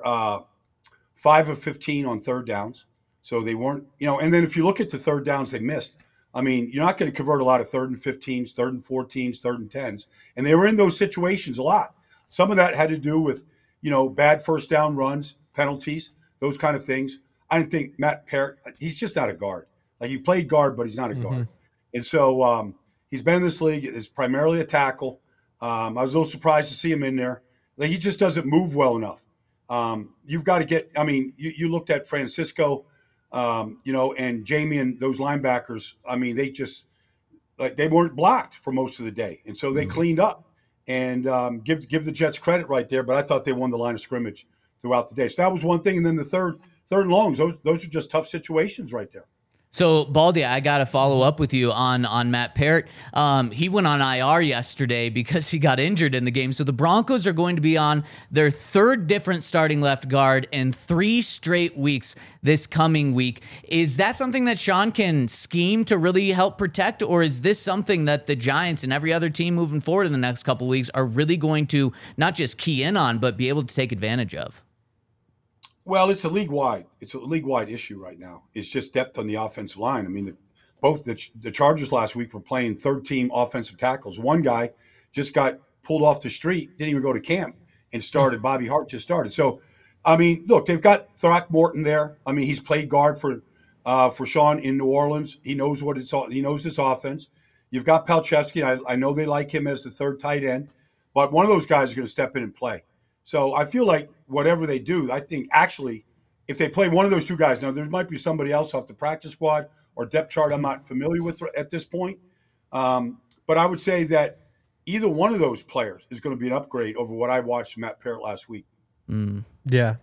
5 of 15 on third downs. So they weren't, and then if you look at the third downs they missed, I mean, you're not going to convert a lot of 3rd and 15s, 3rd and 14s, 3rd and 10s. And they were in those situations a lot. Some of that had to do with, bad first down runs, penalties, those kind of things. I didn't think Matt Parrott, he's just not a guard. Like, he played guard, but he's not a guard. And so he's been in this league. It's primarily a tackle. I was a little surprised to see him in there. Like, he just doesn't move well enough. You've got to get – I mean, you looked at Francisco – and Jamie and those linebackers, I mean, they just they weren't blocked for most of the day. And so they cleaned up and give the Jets credit right there. But I thought they won the line of scrimmage throughout the day. So that was one thing. And then the third and longs, those are just tough situations right there. So, Baldy, I got to follow up with you on Matt Parrott. He went on IR yesterday because he got injured in the game. So the Broncos are going to be on their 3rd different starting left guard in 3 straight weeks this coming week. Is that something that Sean can scheme to really help protect, or is this something that the Giants and every other team moving forward in the next couple of weeks are really going to not just key in on, but be able to take advantage of? Well, it's a league-wide issue right now. It's just depth on the offensive line. I mean, both the Chargers last week were playing 3rd-team offensive tackles. One guy just got pulled off the street, didn't even go to camp, and started. Bobby Hart just started. So, I mean, look, they've got Throckmorton there. I mean, he's played guard for Sean in New Orleans. He knows he knows this offense. You've got Palczewski. I know they like him as the 3rd tight end, but one of those guys is going to step in and play. So I feel like whatever they do, I think actually if they play one of those 2 guys, now there might be somebody else off the practice squad or depth chart I'm not familiar with at this point. But I would say that either one of those players is going to be an upgrade over what I watched from Matt Parrott last week. Yeah.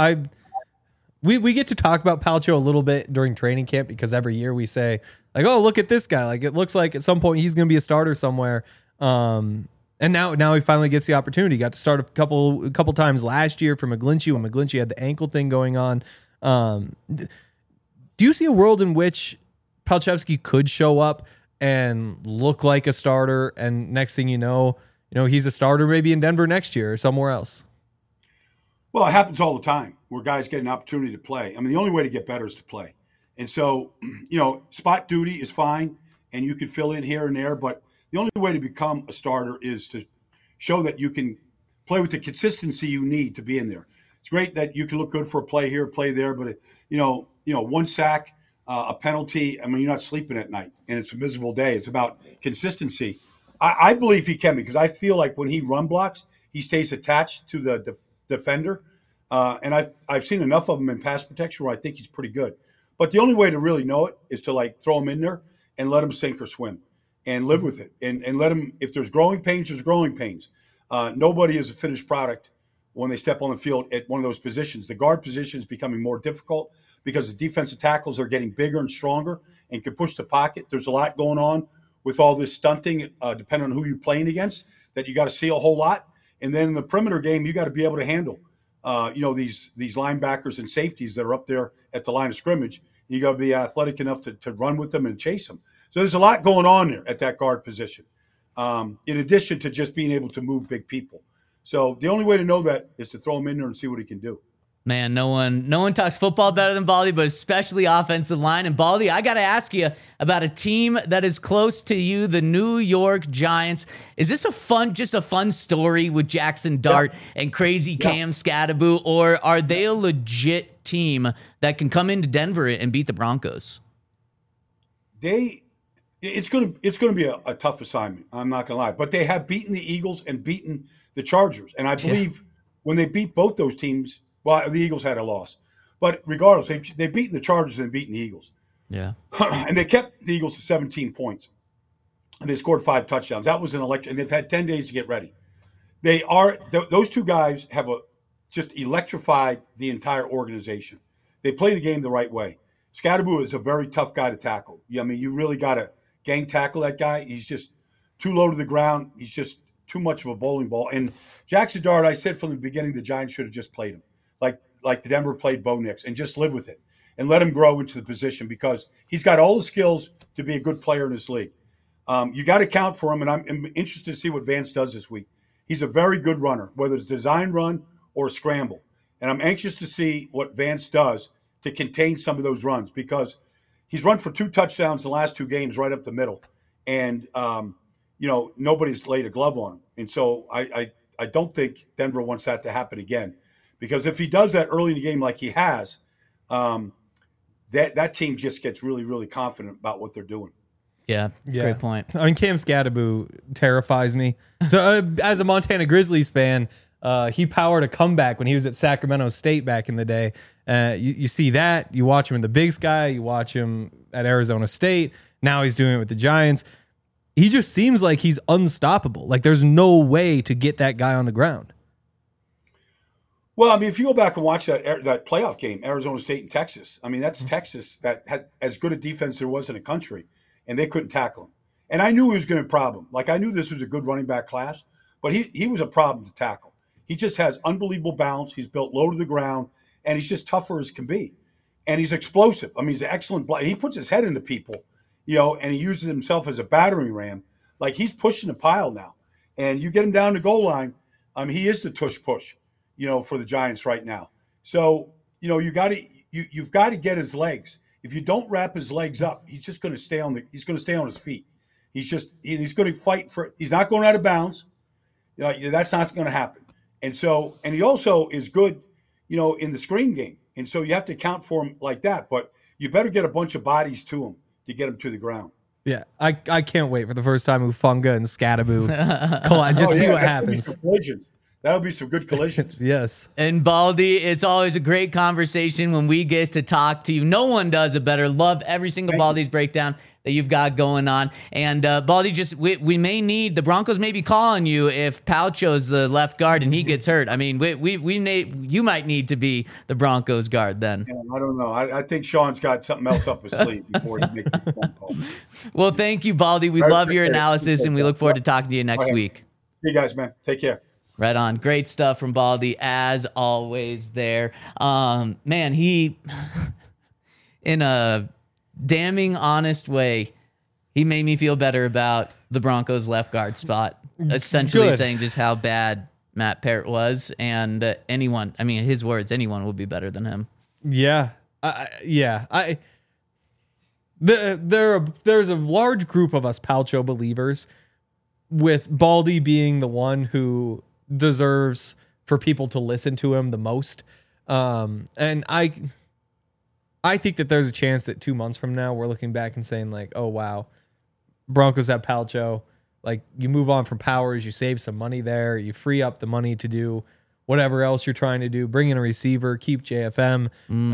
We get to talk about Palcho a little bit during training camp because every year we say, like, oh, look at this guy. Like, it looks like at some point he's going to be a starter somewhere. And now he finally gets the opportunity. He got to start a couple times last year for McGlinchey when McGlinchey had the ankle thing going on. Do you see a world in which Palczewski could show up and look like a starter, and next thing you know, he's a starter maybe in Denver next year or somewhere else? Well, it happens all the time where guys get an opportunity to play. I mean, the only way to get better is to play. And so, spot duty is fine, and you can fill in here and there, but the only way to become a starter is to show that you can play with the consistency you need to be in there. It's great that you can look good for a play here, play there, but one sack, a penalty. I mean, you're not sleeping at night, and it's a miserable day. It's about consistency. I believe he can, because I feel like when he run blocks, he stays attached to the defender, and I've seen enough of him in pass protection where I think he's pretty good. But the only way to really know it is to throw him in there and let him sink or swim, and live with it, and let him. If there's growing pains, there's growing pains. Nobody is a finished product when they step on the field at one of those positions. The guard position is becoming more difficult because the defensive tackles are getting bigger and stronger and can push the pocket. There's a lot going on with all this stunting, depending on who you're playing against, that you got to see a whole lot. And then in the perimeter game, you got to be able to handle, these linebackers and safeties that are up there at the line of scrimmage. You got to be athletic enough to run with them and chase them. So there's a lot going on there at that guard position, in addition to just being able to move big people. So the only way to know that is to throw him in there and see what he can do. Man, no one talks football better than Baldy, but especially offensive line. And Baldy, I got to ask you about a team that is close to you, the New York Giants. Is this just a fun story with Jackson Dart and crazy Cam Scadaboo, or are they a legit team that can come into Denver and beat the Broncos? It's going to be a tough assignment. I'm not going to lie, but they have beaten the Eagles and beaten the Chargers, and I believe when they beat both those teams. Well, the Eagles had a loss. But regardless, they've beaten the Chargers and beaten the Eagles. Yeah. And they kept the Eagles to 17 points. And they scored 5 touchdowns. That was an electric. And they've had 10 days to get ready. Those two guys have just electrified the entire organization. They play the game the right way. Scadaboo is a very tough guy to tackle. I mean, you really got to gang tackle that guy. He's just too low to the ground. He's just too much of a bowling ball. And Jackson Dart, I said from the beginning, the Giants should have just played him. Like the Denver played Bo Nix, and just live with it and let him grow into the position, because he's got all the skills to be a good player in this league. You got to count for him, and I'm interested to see what Vance does this week. He's a very good runner, whether it's design run or scramble. And I'm anxious to see what Vance does to contain some of those runs, because he's run for 2 touchdowns in the last 2 games right up the middle. And, nobody's laid a glove on him. And so I don't think Denver wants that to happen again. Because if he does that early in the game like he has, that team just gets really, really confident about what they're doing. Yeah, great point. I mean, Cam Scadaboo terrifies me. So as a Montana Grizzlies fan, he powered a comeback when he was at Sacramento State back in the day. You see that. You watch him in the Big Sky. You watch him at Arizona State. Now he's doing it with the Giants. He just seems like he's unstoppable. Like there's no way to get that guy on the ground. Well, I mean, if you go back and watch that playoff game, Arizona State and Texas, I mean, that's Texas that had as good a defense there was in the country, and they couldn't tackle him. And I knew he was going to be a problem. Like, I knew this was a good running back class, but he was a problem to tackle. He just has unbelievable balance. He's built low to the ground, and he's just tougher as can be. And he's explosive. I mean, he's an excellent – he puts his head into people, and he uses himself as a battering ram. Like, he's pushing the pile now. And you get him down the goal line, he is the tush push. For the Giants right now. So, you've got to get his legs. If you don't wrap his legs up, he's just going to stay on his feet. He's going to fight he's not going out of bounds. That's not going to happen. And he also is good, in the screen game. And so you have to account for him like that, but you better get a bunch of bodies to him to get him to the ground. Yeah. I can't wait for the first time Ufunga and Scadaboo collide. See what happens. That'll be some good collisions. Yes. And Baldy, it's always a great conversation when we get to talk to you. No one does it better. Love every single Baldy's breakdown that you've got going on. And Baldy, we may need, the Broncos may be calling you if Palcho's the left guard and he gets hurt. I mean, you might need to be the Broncos guard then. Yeah, I don't know. I think Sean's got something else up his sleeve before he makes the phone call. Well, thank you, Baldy. We love your analysis, and we look forward to talking to you next week. Hey, guys, man. Take care. Right on. Great stuff from Baldy, as always there. Man, he, in a damning honest way, he made me feel better about the Broncos left guard spot, essentially saying just how bad Matt Parrott was, and his words, anyone will be better than him. Yeah. There's a large group of us Palcho believers, with Baldy being the one who deserves for people to listen to him the most. And I think that there's a chance that 2 months from now we're looking back and saying like, oh wow, Broncos have Palcho. Like, you move on from Powers, you save some money there, you free up the money to do whatever else you're trying to do, bring in a receiver, keep JFM.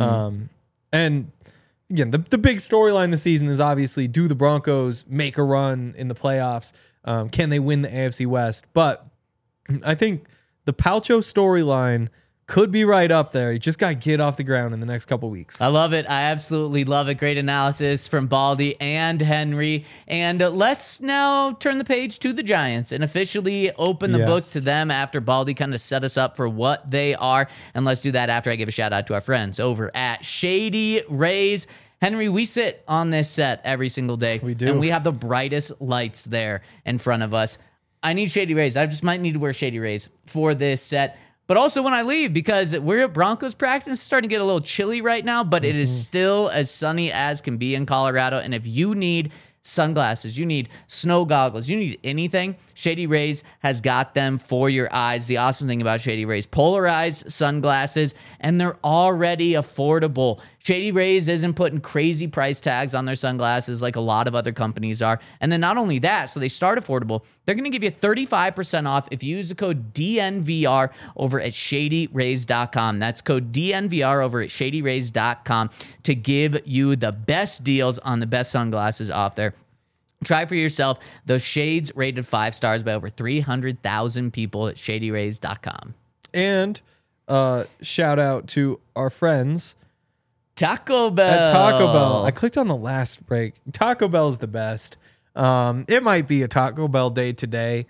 And again, the big storyline this season is obviously, do the Broncos make a run in the playoffs? Can they win the AFC West? But I think the Palcho storyline could be right up there. You just got to get off the ground in the next couple weeks. I love it. I absolutely love it. Great analysis from Baldy and Henry. And let's now turn the page to the Giants and officially open the book to them after Baldy kind of set us up for what they are. And let's do that after I give a shout out to our friends over at Shady Rays. Henry, we sit on this set every single day. We do. And we have the brightest lights there in front of us. I need Shady Rays. I just might need to wear Shady Rays for this set. But also when I leave, because we're at Broncos practice, it's starting to get a little chilly right now, but it is still as sunny as can be in Colorado. And if you need sunglasses, you need snow goggles, you need anything, Shady Rays has got them for your eyes. The awesome thing about Shady Rays, polarized sunglasses, and they're already affordable. Shady Rays isn't putting crazy price tags on their sunglasses like a lot of other companies are. And then not only that, so they start affordable, they're going to give you 35% off if you use the code DNVR over at ShadyRays.com. That's code DNVR over at ShadyRays.com to give you the best deals on the best sunglasses off there. Try for yourself those shades rated 5 stars by over 300,000 people at ShadyRays.com. And shout out to our friends Taco Bell. at Taco Bell. I clicked on the last break. Taco Bell is the best. It might be a Taco Bell day today.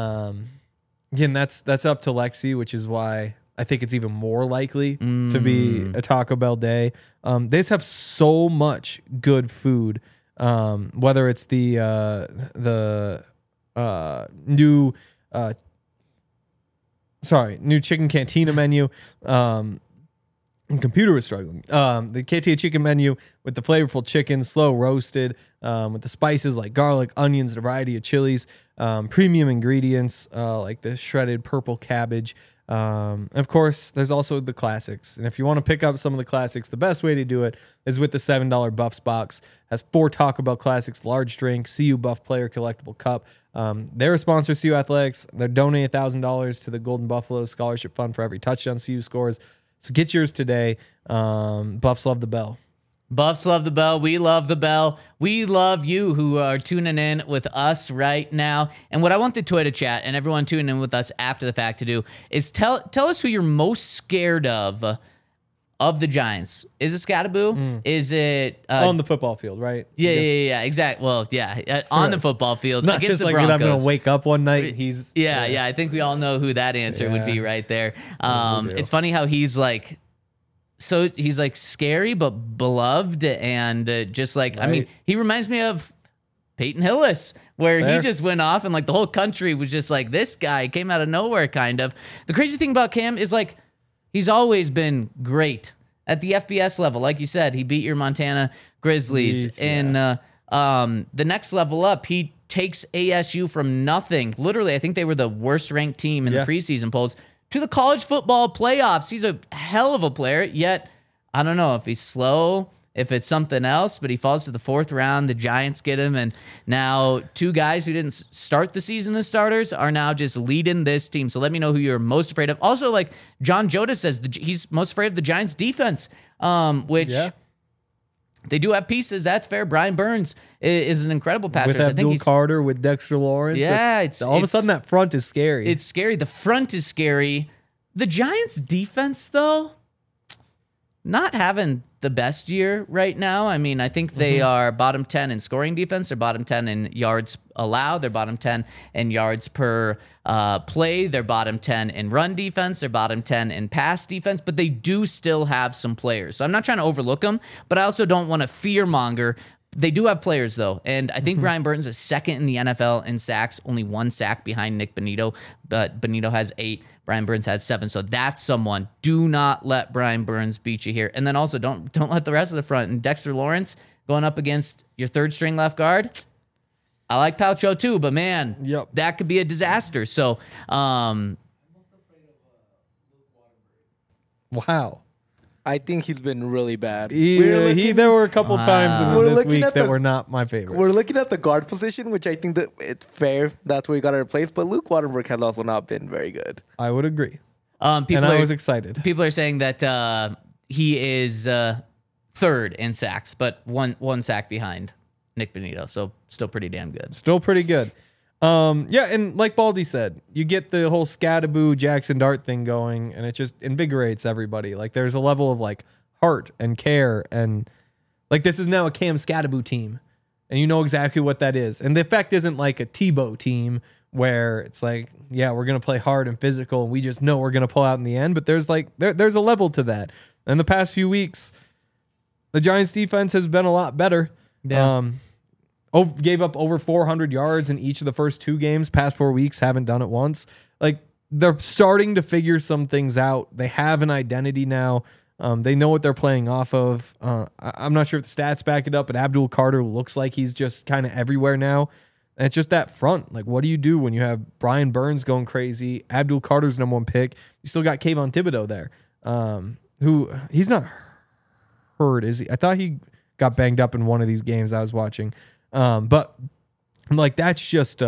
Again, that's up to Lexi, which is why I think it's even more likely to be a Taco Bell day. They just have so much good food. Whether it's the new chicken cantina menu. Computer was struggling. The KTA chicken menu with the flavorful chicken, slow roasted, with the spices like garlic, onions, a variety of chilies, premium ingredients like the shredded purple cabbage. Of course, there's also the classics. And if you want to pick up some of the classics, the best way to do it is with the $7 Buffs box. Has 4 Taco Bell classics, large drink, CU Buff player collectible cup. They're a sponsor of CU Athletics. They're donating $1,000 to the Golden Buffalo Scholarship Fund for every touchdown CU scores. So get yours today. Buffs love the bell. Buffs love the bell. We love the bell. We love you who are tuning in with us right now. And what I want the Twitter chat and everyone tuning in with us after the fact to do is tell us who you're most scared of the Giants. Is it Scattaboo? Is it on the football field, right? Yeah, exactly. Well, yeah, on the football field. Not against just the like Broncos. I'm going to wake up one night. He's yeah. I think we all know who that answer would be right there. It's funny how he's like scary but beloved, and just like right. I mean, he reminds me of Peyton Hillis, where he just went off and like the whole country was just like, this guy came out of nowhere kind of. The crazy thing about Cam is like he's always been great at the FBS level. Like you said, he beat your Montana Grizzlies. In the next level up, he takes ASU from nothing. Literally, I think they were the worst ranked team in the preseason polls to the college football playoffs. He's a hell of a player, yet I don't know if he's slow, if it's something else, but he falls to the 4th round. The Giants get him, and now 2 guys who didn't start the season as starters are now just leading this team. So let me know who you're most afraid of. Also, like John Joda says, he's most afraid of the Giants defense, which they do have pieces. That's fair. Brian Burns is an incredible passer. With Abdul Carter, with Dexter Lawrence. Yeah, all of a sudden that front is scary. It's scary. The front is scary. The Giants defense, though, not having the best year right now. I mean, I think they are bottom 10 in scoring defense. They're bottom 10 in yards allowed. They're bottom 10 in yards per play. They're bottom 10 in run defense. They're bottom 10 in pass defense. But they do still have some players. So I'm not trying to overlook them, but I also don't want to fearmonger. They do have players, though, and I think Brian Burns is second in the NFL in sacks, only 1 sack behind Nick Bonito, but Bonito has 8, Brian Burns has 7, so that's someone. Do not let Brian Burns beat you here. And then also don't let the rest of the front. And Dexter Lawrence going up against your 3rd-string left guard, I like Palcho too, but man, that could be a disaster. So, wow. I think he's been really bad. There were a couple times in this week that were not my favorite. We're looking at the guard position, which I think that it's fair. That's where you got to replace. But Luke Waterberg has also not been very good. I would agree. I was excited. People are saying that he is 3rd in sacks, but one sack behind Nick Bonito. So still pretty damn good. Still pretty good. And like Baldy said, you get the whole Scadaboo Jackson Dart thing going, and it just invigorates everybody. Like there's a level of like heart and care, and like this is now a Cam Scadaboo team, and you know exactly what that is. And the effect isn't like a Tebow team where it's like, yeah, we're gonna play hard and physical, and we just know we're gonna pull out in the end. But there's like there's a level to that. And the past few weeks, the Giants defense has been a lot better. Yeah. Gave up over 400 yards in each of the first 2 games. Past 4 weeks, haven't done it once. Like they're starting to figure some things out. They have an identity now. They know what they're playing off of. I'm not sure if the stats back it up, but Abdul Carter looks like he's just kind of everywhere now. And it's just that front. Like, what do you do when you have Brian Burns going crazy? Abdul Carter's number 1 pick. You still got Kayvon Thibodeau there, who he's not hurt, is he? I thought he got banged up in one of these games I was watching. But like that's just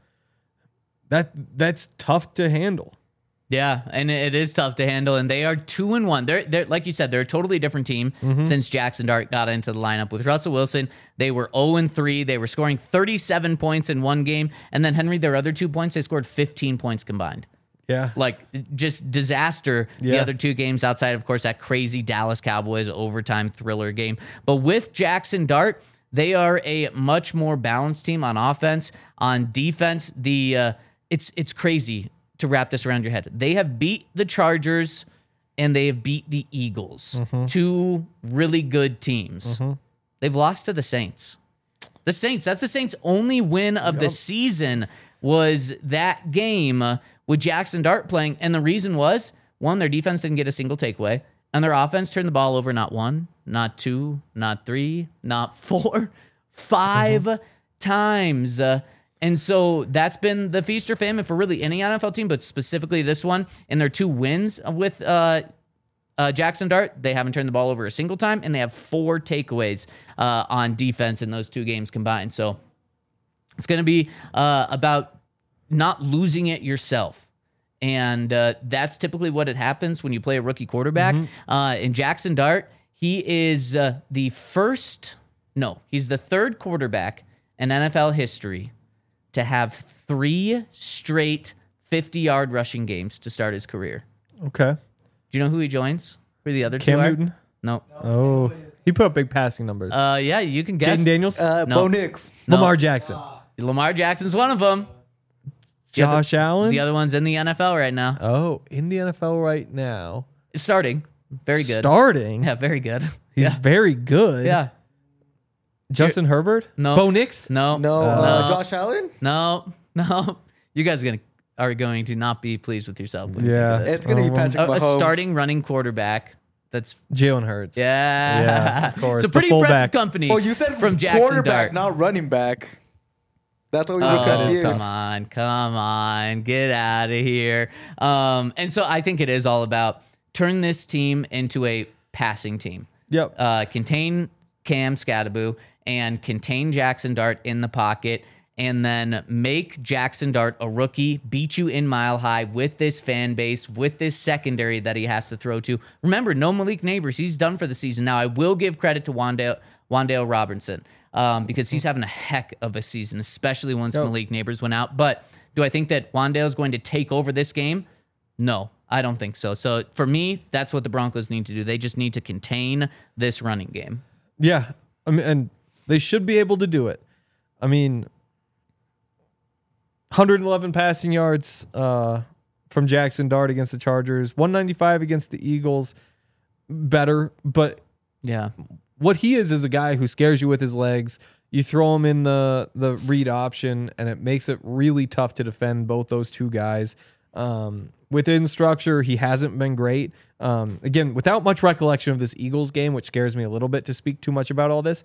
that's tough to handle. Yeah, and it is tough to handle. And they are 2-1. They're like you said, they're a totally different team since Jackson Dart got into the lineup with Russell Wilson. They were 0-3. They were scoring 37 points in one game, and then Henry, their other 2 points, they scored 15 points combined. Yeah, like just disaster. The other 2 games outside, of course, that crazy Dallas Cowboys overtime thriller game. But with Jackson Dart, they are a much more balanced team on offense. On defense, it's crazy to wrap this around your head. They have beat the Chargers and they have beat the Eagles, 2 really good teams. They've lost to the Saints. The Saints, that's the Saints' only win of the season was that game with Jackson Dart playing. And the reason was, 1, their defense didn't get a single takeaway. And their offense turned the ball over not 1, not 2, not 3, not 4, 5 times. And so that's been the feast or famine for really any NFL team, but specifically this one. In their 2 wins with Jackson Dart, they haven't turned the ball over a single time, and they have 4 takeaways on defense in those 2 games combined. So it's going to be about not losing it yourself. And that's typically what it happens when you play a rookie quarterback. In Jackson Dart, he is he's the 3rd quarterback in NFL history to have 3 straight 50-yard rushing games to start his career. Okay. Do you know who he joins? Who the other 2 Cam are? Newton? No. Oh, he put up big passing numbers. Yeah, you can guess. Jaden Daniels? Bo Nix. Lamar Jackson. Lamar Jackson's one of them. Josh Allen? The other one's in the NFL right now. Oh, in the NFL right now. Starting. Very good. Starting? Yeah, very good. He's very good. Yeah. Justin Herbert? No. Bo Nix? No. Josh Allen? No. You guys are going to not be pleased with yourself. When Yeah. you think of this. It's going to be Patrick A Mahomes. starting running quarterback. That's Jalen Hurts. yeah, of course. It's a pretty The impressive fullback. company. Oh, you said from Jackson quarterback, Dart. not running back. That's what we were Oh, confused. come on, get out of here. And so I think it is all about turn this team into a passing team. Yep. Contain Cam Scatterbo and contain Jackson Dart in the pocket, and then make Jackson Dart a rookie, beat you in Mile High with this fan base, with this secondary that he has to throw to. Remember, no Malik Neighbors. He's done for the season. Now, I will give credit to Wan'Dale Robinson because he's having a heck of a season, especially once Malik Neighbors went out. But do I think that Wan'Dale is going to take over this game? No, I don't think so. So for me, that's what the Broncos need to do. They just need to contain this running game. Yeah, I mean, and they should be able to do it. I mean, 111 passing yards from Jackson Dart against the Chargers, 195 against the Eagles. Better, but yeah, what he is a guy who scares you with his legs. You throw him in the read option, and it makes it really tough to defend both those two guys. Within structure, he hasn't been great. Again, without much recollection of this Eagles game, which scares me a little bit to speak too much about all this.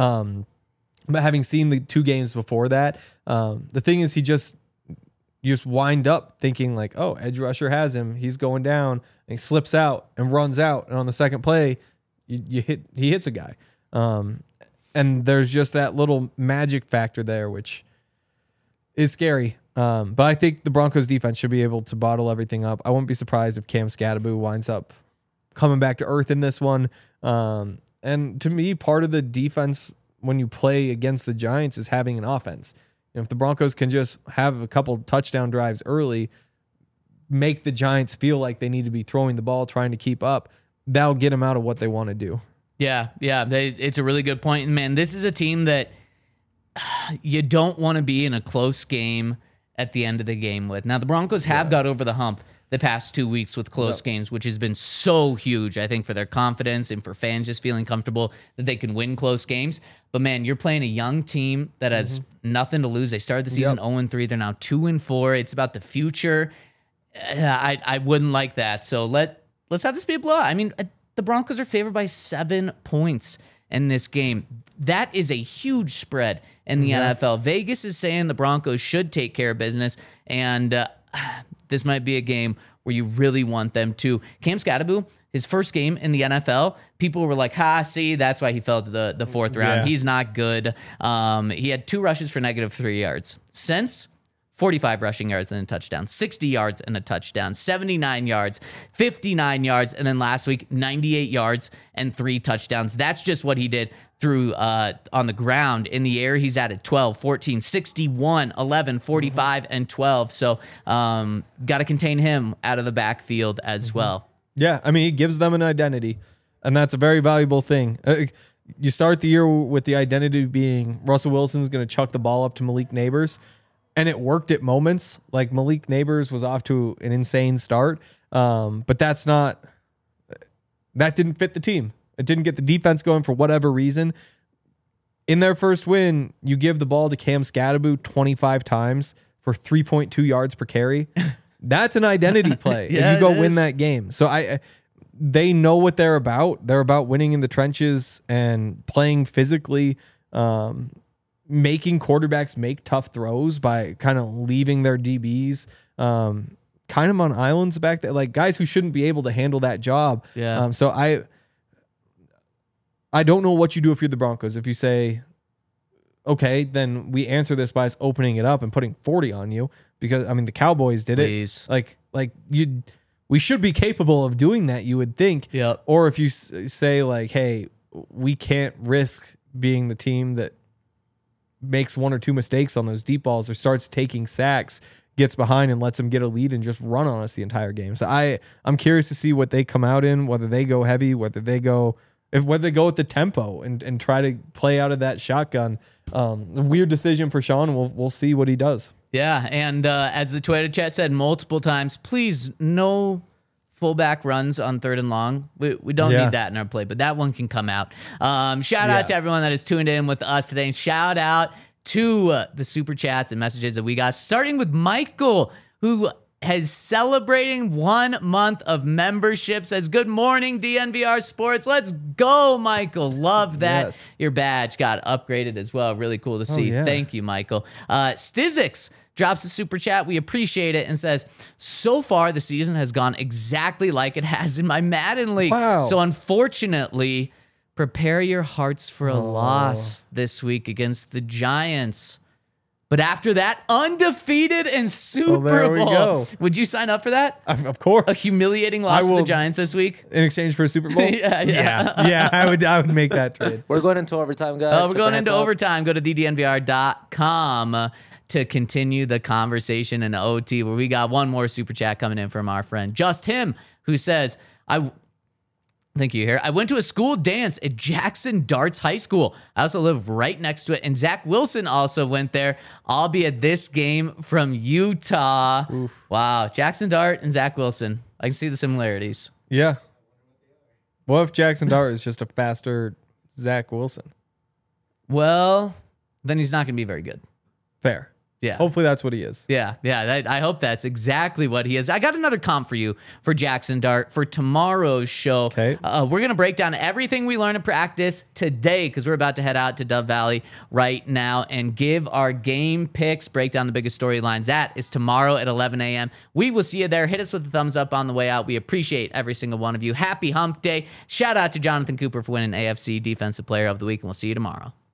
But having seen the 2 games before that, the thing is you just wind up thinking like, oh, edge rusher has him. He's going down, and he slips out and runs out. And on the second play, he hits a guy. And there's just that little magic factor there, which is scary. But I think the Broncos defense should be able to bottle everything up. I wouldn't be surprised if Cam Scatterbo winds up coming back to earth in this one. And to me, part of the defense when you play against the Giants is having an offense. You know, if the Broncos can just have a couple touchdown drives early, make the Giants feel like they need to be throwing the ball, trying to keep up, that'll get them out of what they want to do. Yeah. It's a really good point. And man, this is a team that you don't want to be in a close game at the end of the game with. Now, the Broncos have got over the hump the past 2 weeks with close games, which has been so huge, I think, for their confidence and for fans just feeling comfortable that they can win close games. But man, you're playing a young team that has nothing to lose. They started the season 0-3. They're now 2-4. It's about the future. I wouldn't like that. So let's have this be a blowout. I mean, the Broncos are favored by 7 points in this game. That is a huge spread in the NFL. Vegas is saying the Broncos should take care of business, and this might be a game where you really want them to. Cam Scatterbo, his first game in the NFL, people were like, see, that's why he fell to the 4th round. Yeah. He's not good. He had 2 rushes for -3 yards. Since 45 rushing yards and a touchdown, 60 yards and a touchdown, 79 yards, 59 yards, and then last week, 98 yards and 3 touchdowns. That's just what he did through on the ground. In the air, he's added 12, 14, 61, 11, 45, and 12. So got to contain him out of the backfield as well. Yeah, I mean, he gives them an identity, and that's a very valuable thing. You start the year with the identity being Russell Wilson's going to chuck the ball up to Malik Neighbors, and it worked at moments. Like Malik Neighbors was off to an insane start, but that didn't fit the team. It didn't get the defense going for whatever reason. In their first win, you give the ball to Cam Scatterbo 25 times for 3.2 yards per carry. That's an identity play. Yeah, and you go win that game. So they know what they're about. They're about winning in the trenches and playing physically, making quarterbacks make tough throws by kind of leaving their DBs kind of on islands back there, like guys who shouldn't be able to handle that job. Yeah. So I don't know what you do if you're the Broncos. If you say, okay, then we answer this by us opening it up and putting 40 on you, because I mean the Cowboys did Please. it. Like we should be capable of doing that, you would think. Yep. Or if you say like, hey, we can't risk being the team that makes 1 or 2 mistakes on those deep balls or starts taking sacks, gets behind and lets them get a lead and just run on us the entire game. So I'm curious to see what they come out in, whether they go heavy, whether they go with the tempo and try to play out of that shotgun. A weird decision for Sean. We'll see what he does. Yeah, and as the Twitter chat said multiple times, please no fullback runs on 3rd and long. We don't need that in our play, but that one can come out. Shout out to everyone that is tuned in with us today. And shout out to the super chats and messages that we got, starting with Michael, who is celebrating 1 month of membership. Says, good morning, DNVR Sports. Let's go, Michael. Love that. Yes. Your badge got upgraded as well. Really cool to see. Yeah. Thank you, Michael. Stizix drops a super chat. We appreciate it, and says, so far the season has gone exactly like it has in my Madden League. Wow. So unfortunately, prepare your hearts for a loss this week against the Giants. But after that, undefeated in Super there we Bowl. go. Would you sign up for that? Of course. A humiliating loss to the will- Giants this week? In exchange for a Super Bowl? Yeah. I would make that trade. We're going into overtime, guys. We're Just going a into heads up. overtime. Go to ddnvr.com to continue the conversation in OT, where we got one more super chat coming in from our friend Just Him, who says, Thank you here. I went to a school dance at Jackson Darts High School. I also live right next to it. And Zach Wilson also went there. I'll be at this game from Utah. Oof. Wow. Jackson Dart and Zach Wilson. I can see the similarities. Yeah. What if Jackson Dart is just a faster Zach Wilson? Well, then he's not going to be very good. Fair. Yeah. Hopefully that's what he is. Yeah. I hope that's exactly what he is. I got another comp for you for Jackson Dart for tomorrow's show. Okay. We're going to break down everything we learned in practice today because we're about to head out to Dove Valley right now and give our game picks, break down the biggest storylines. That is tomorrow at 11 a.m. We will see you there. Hit us with a thumbs up on the way out. We appreciate every single one of you. Happy Hump Day. Shout out to Jonathan Cooper for winning AFC Defensive Player of the Week, and we'll see you tomorrow.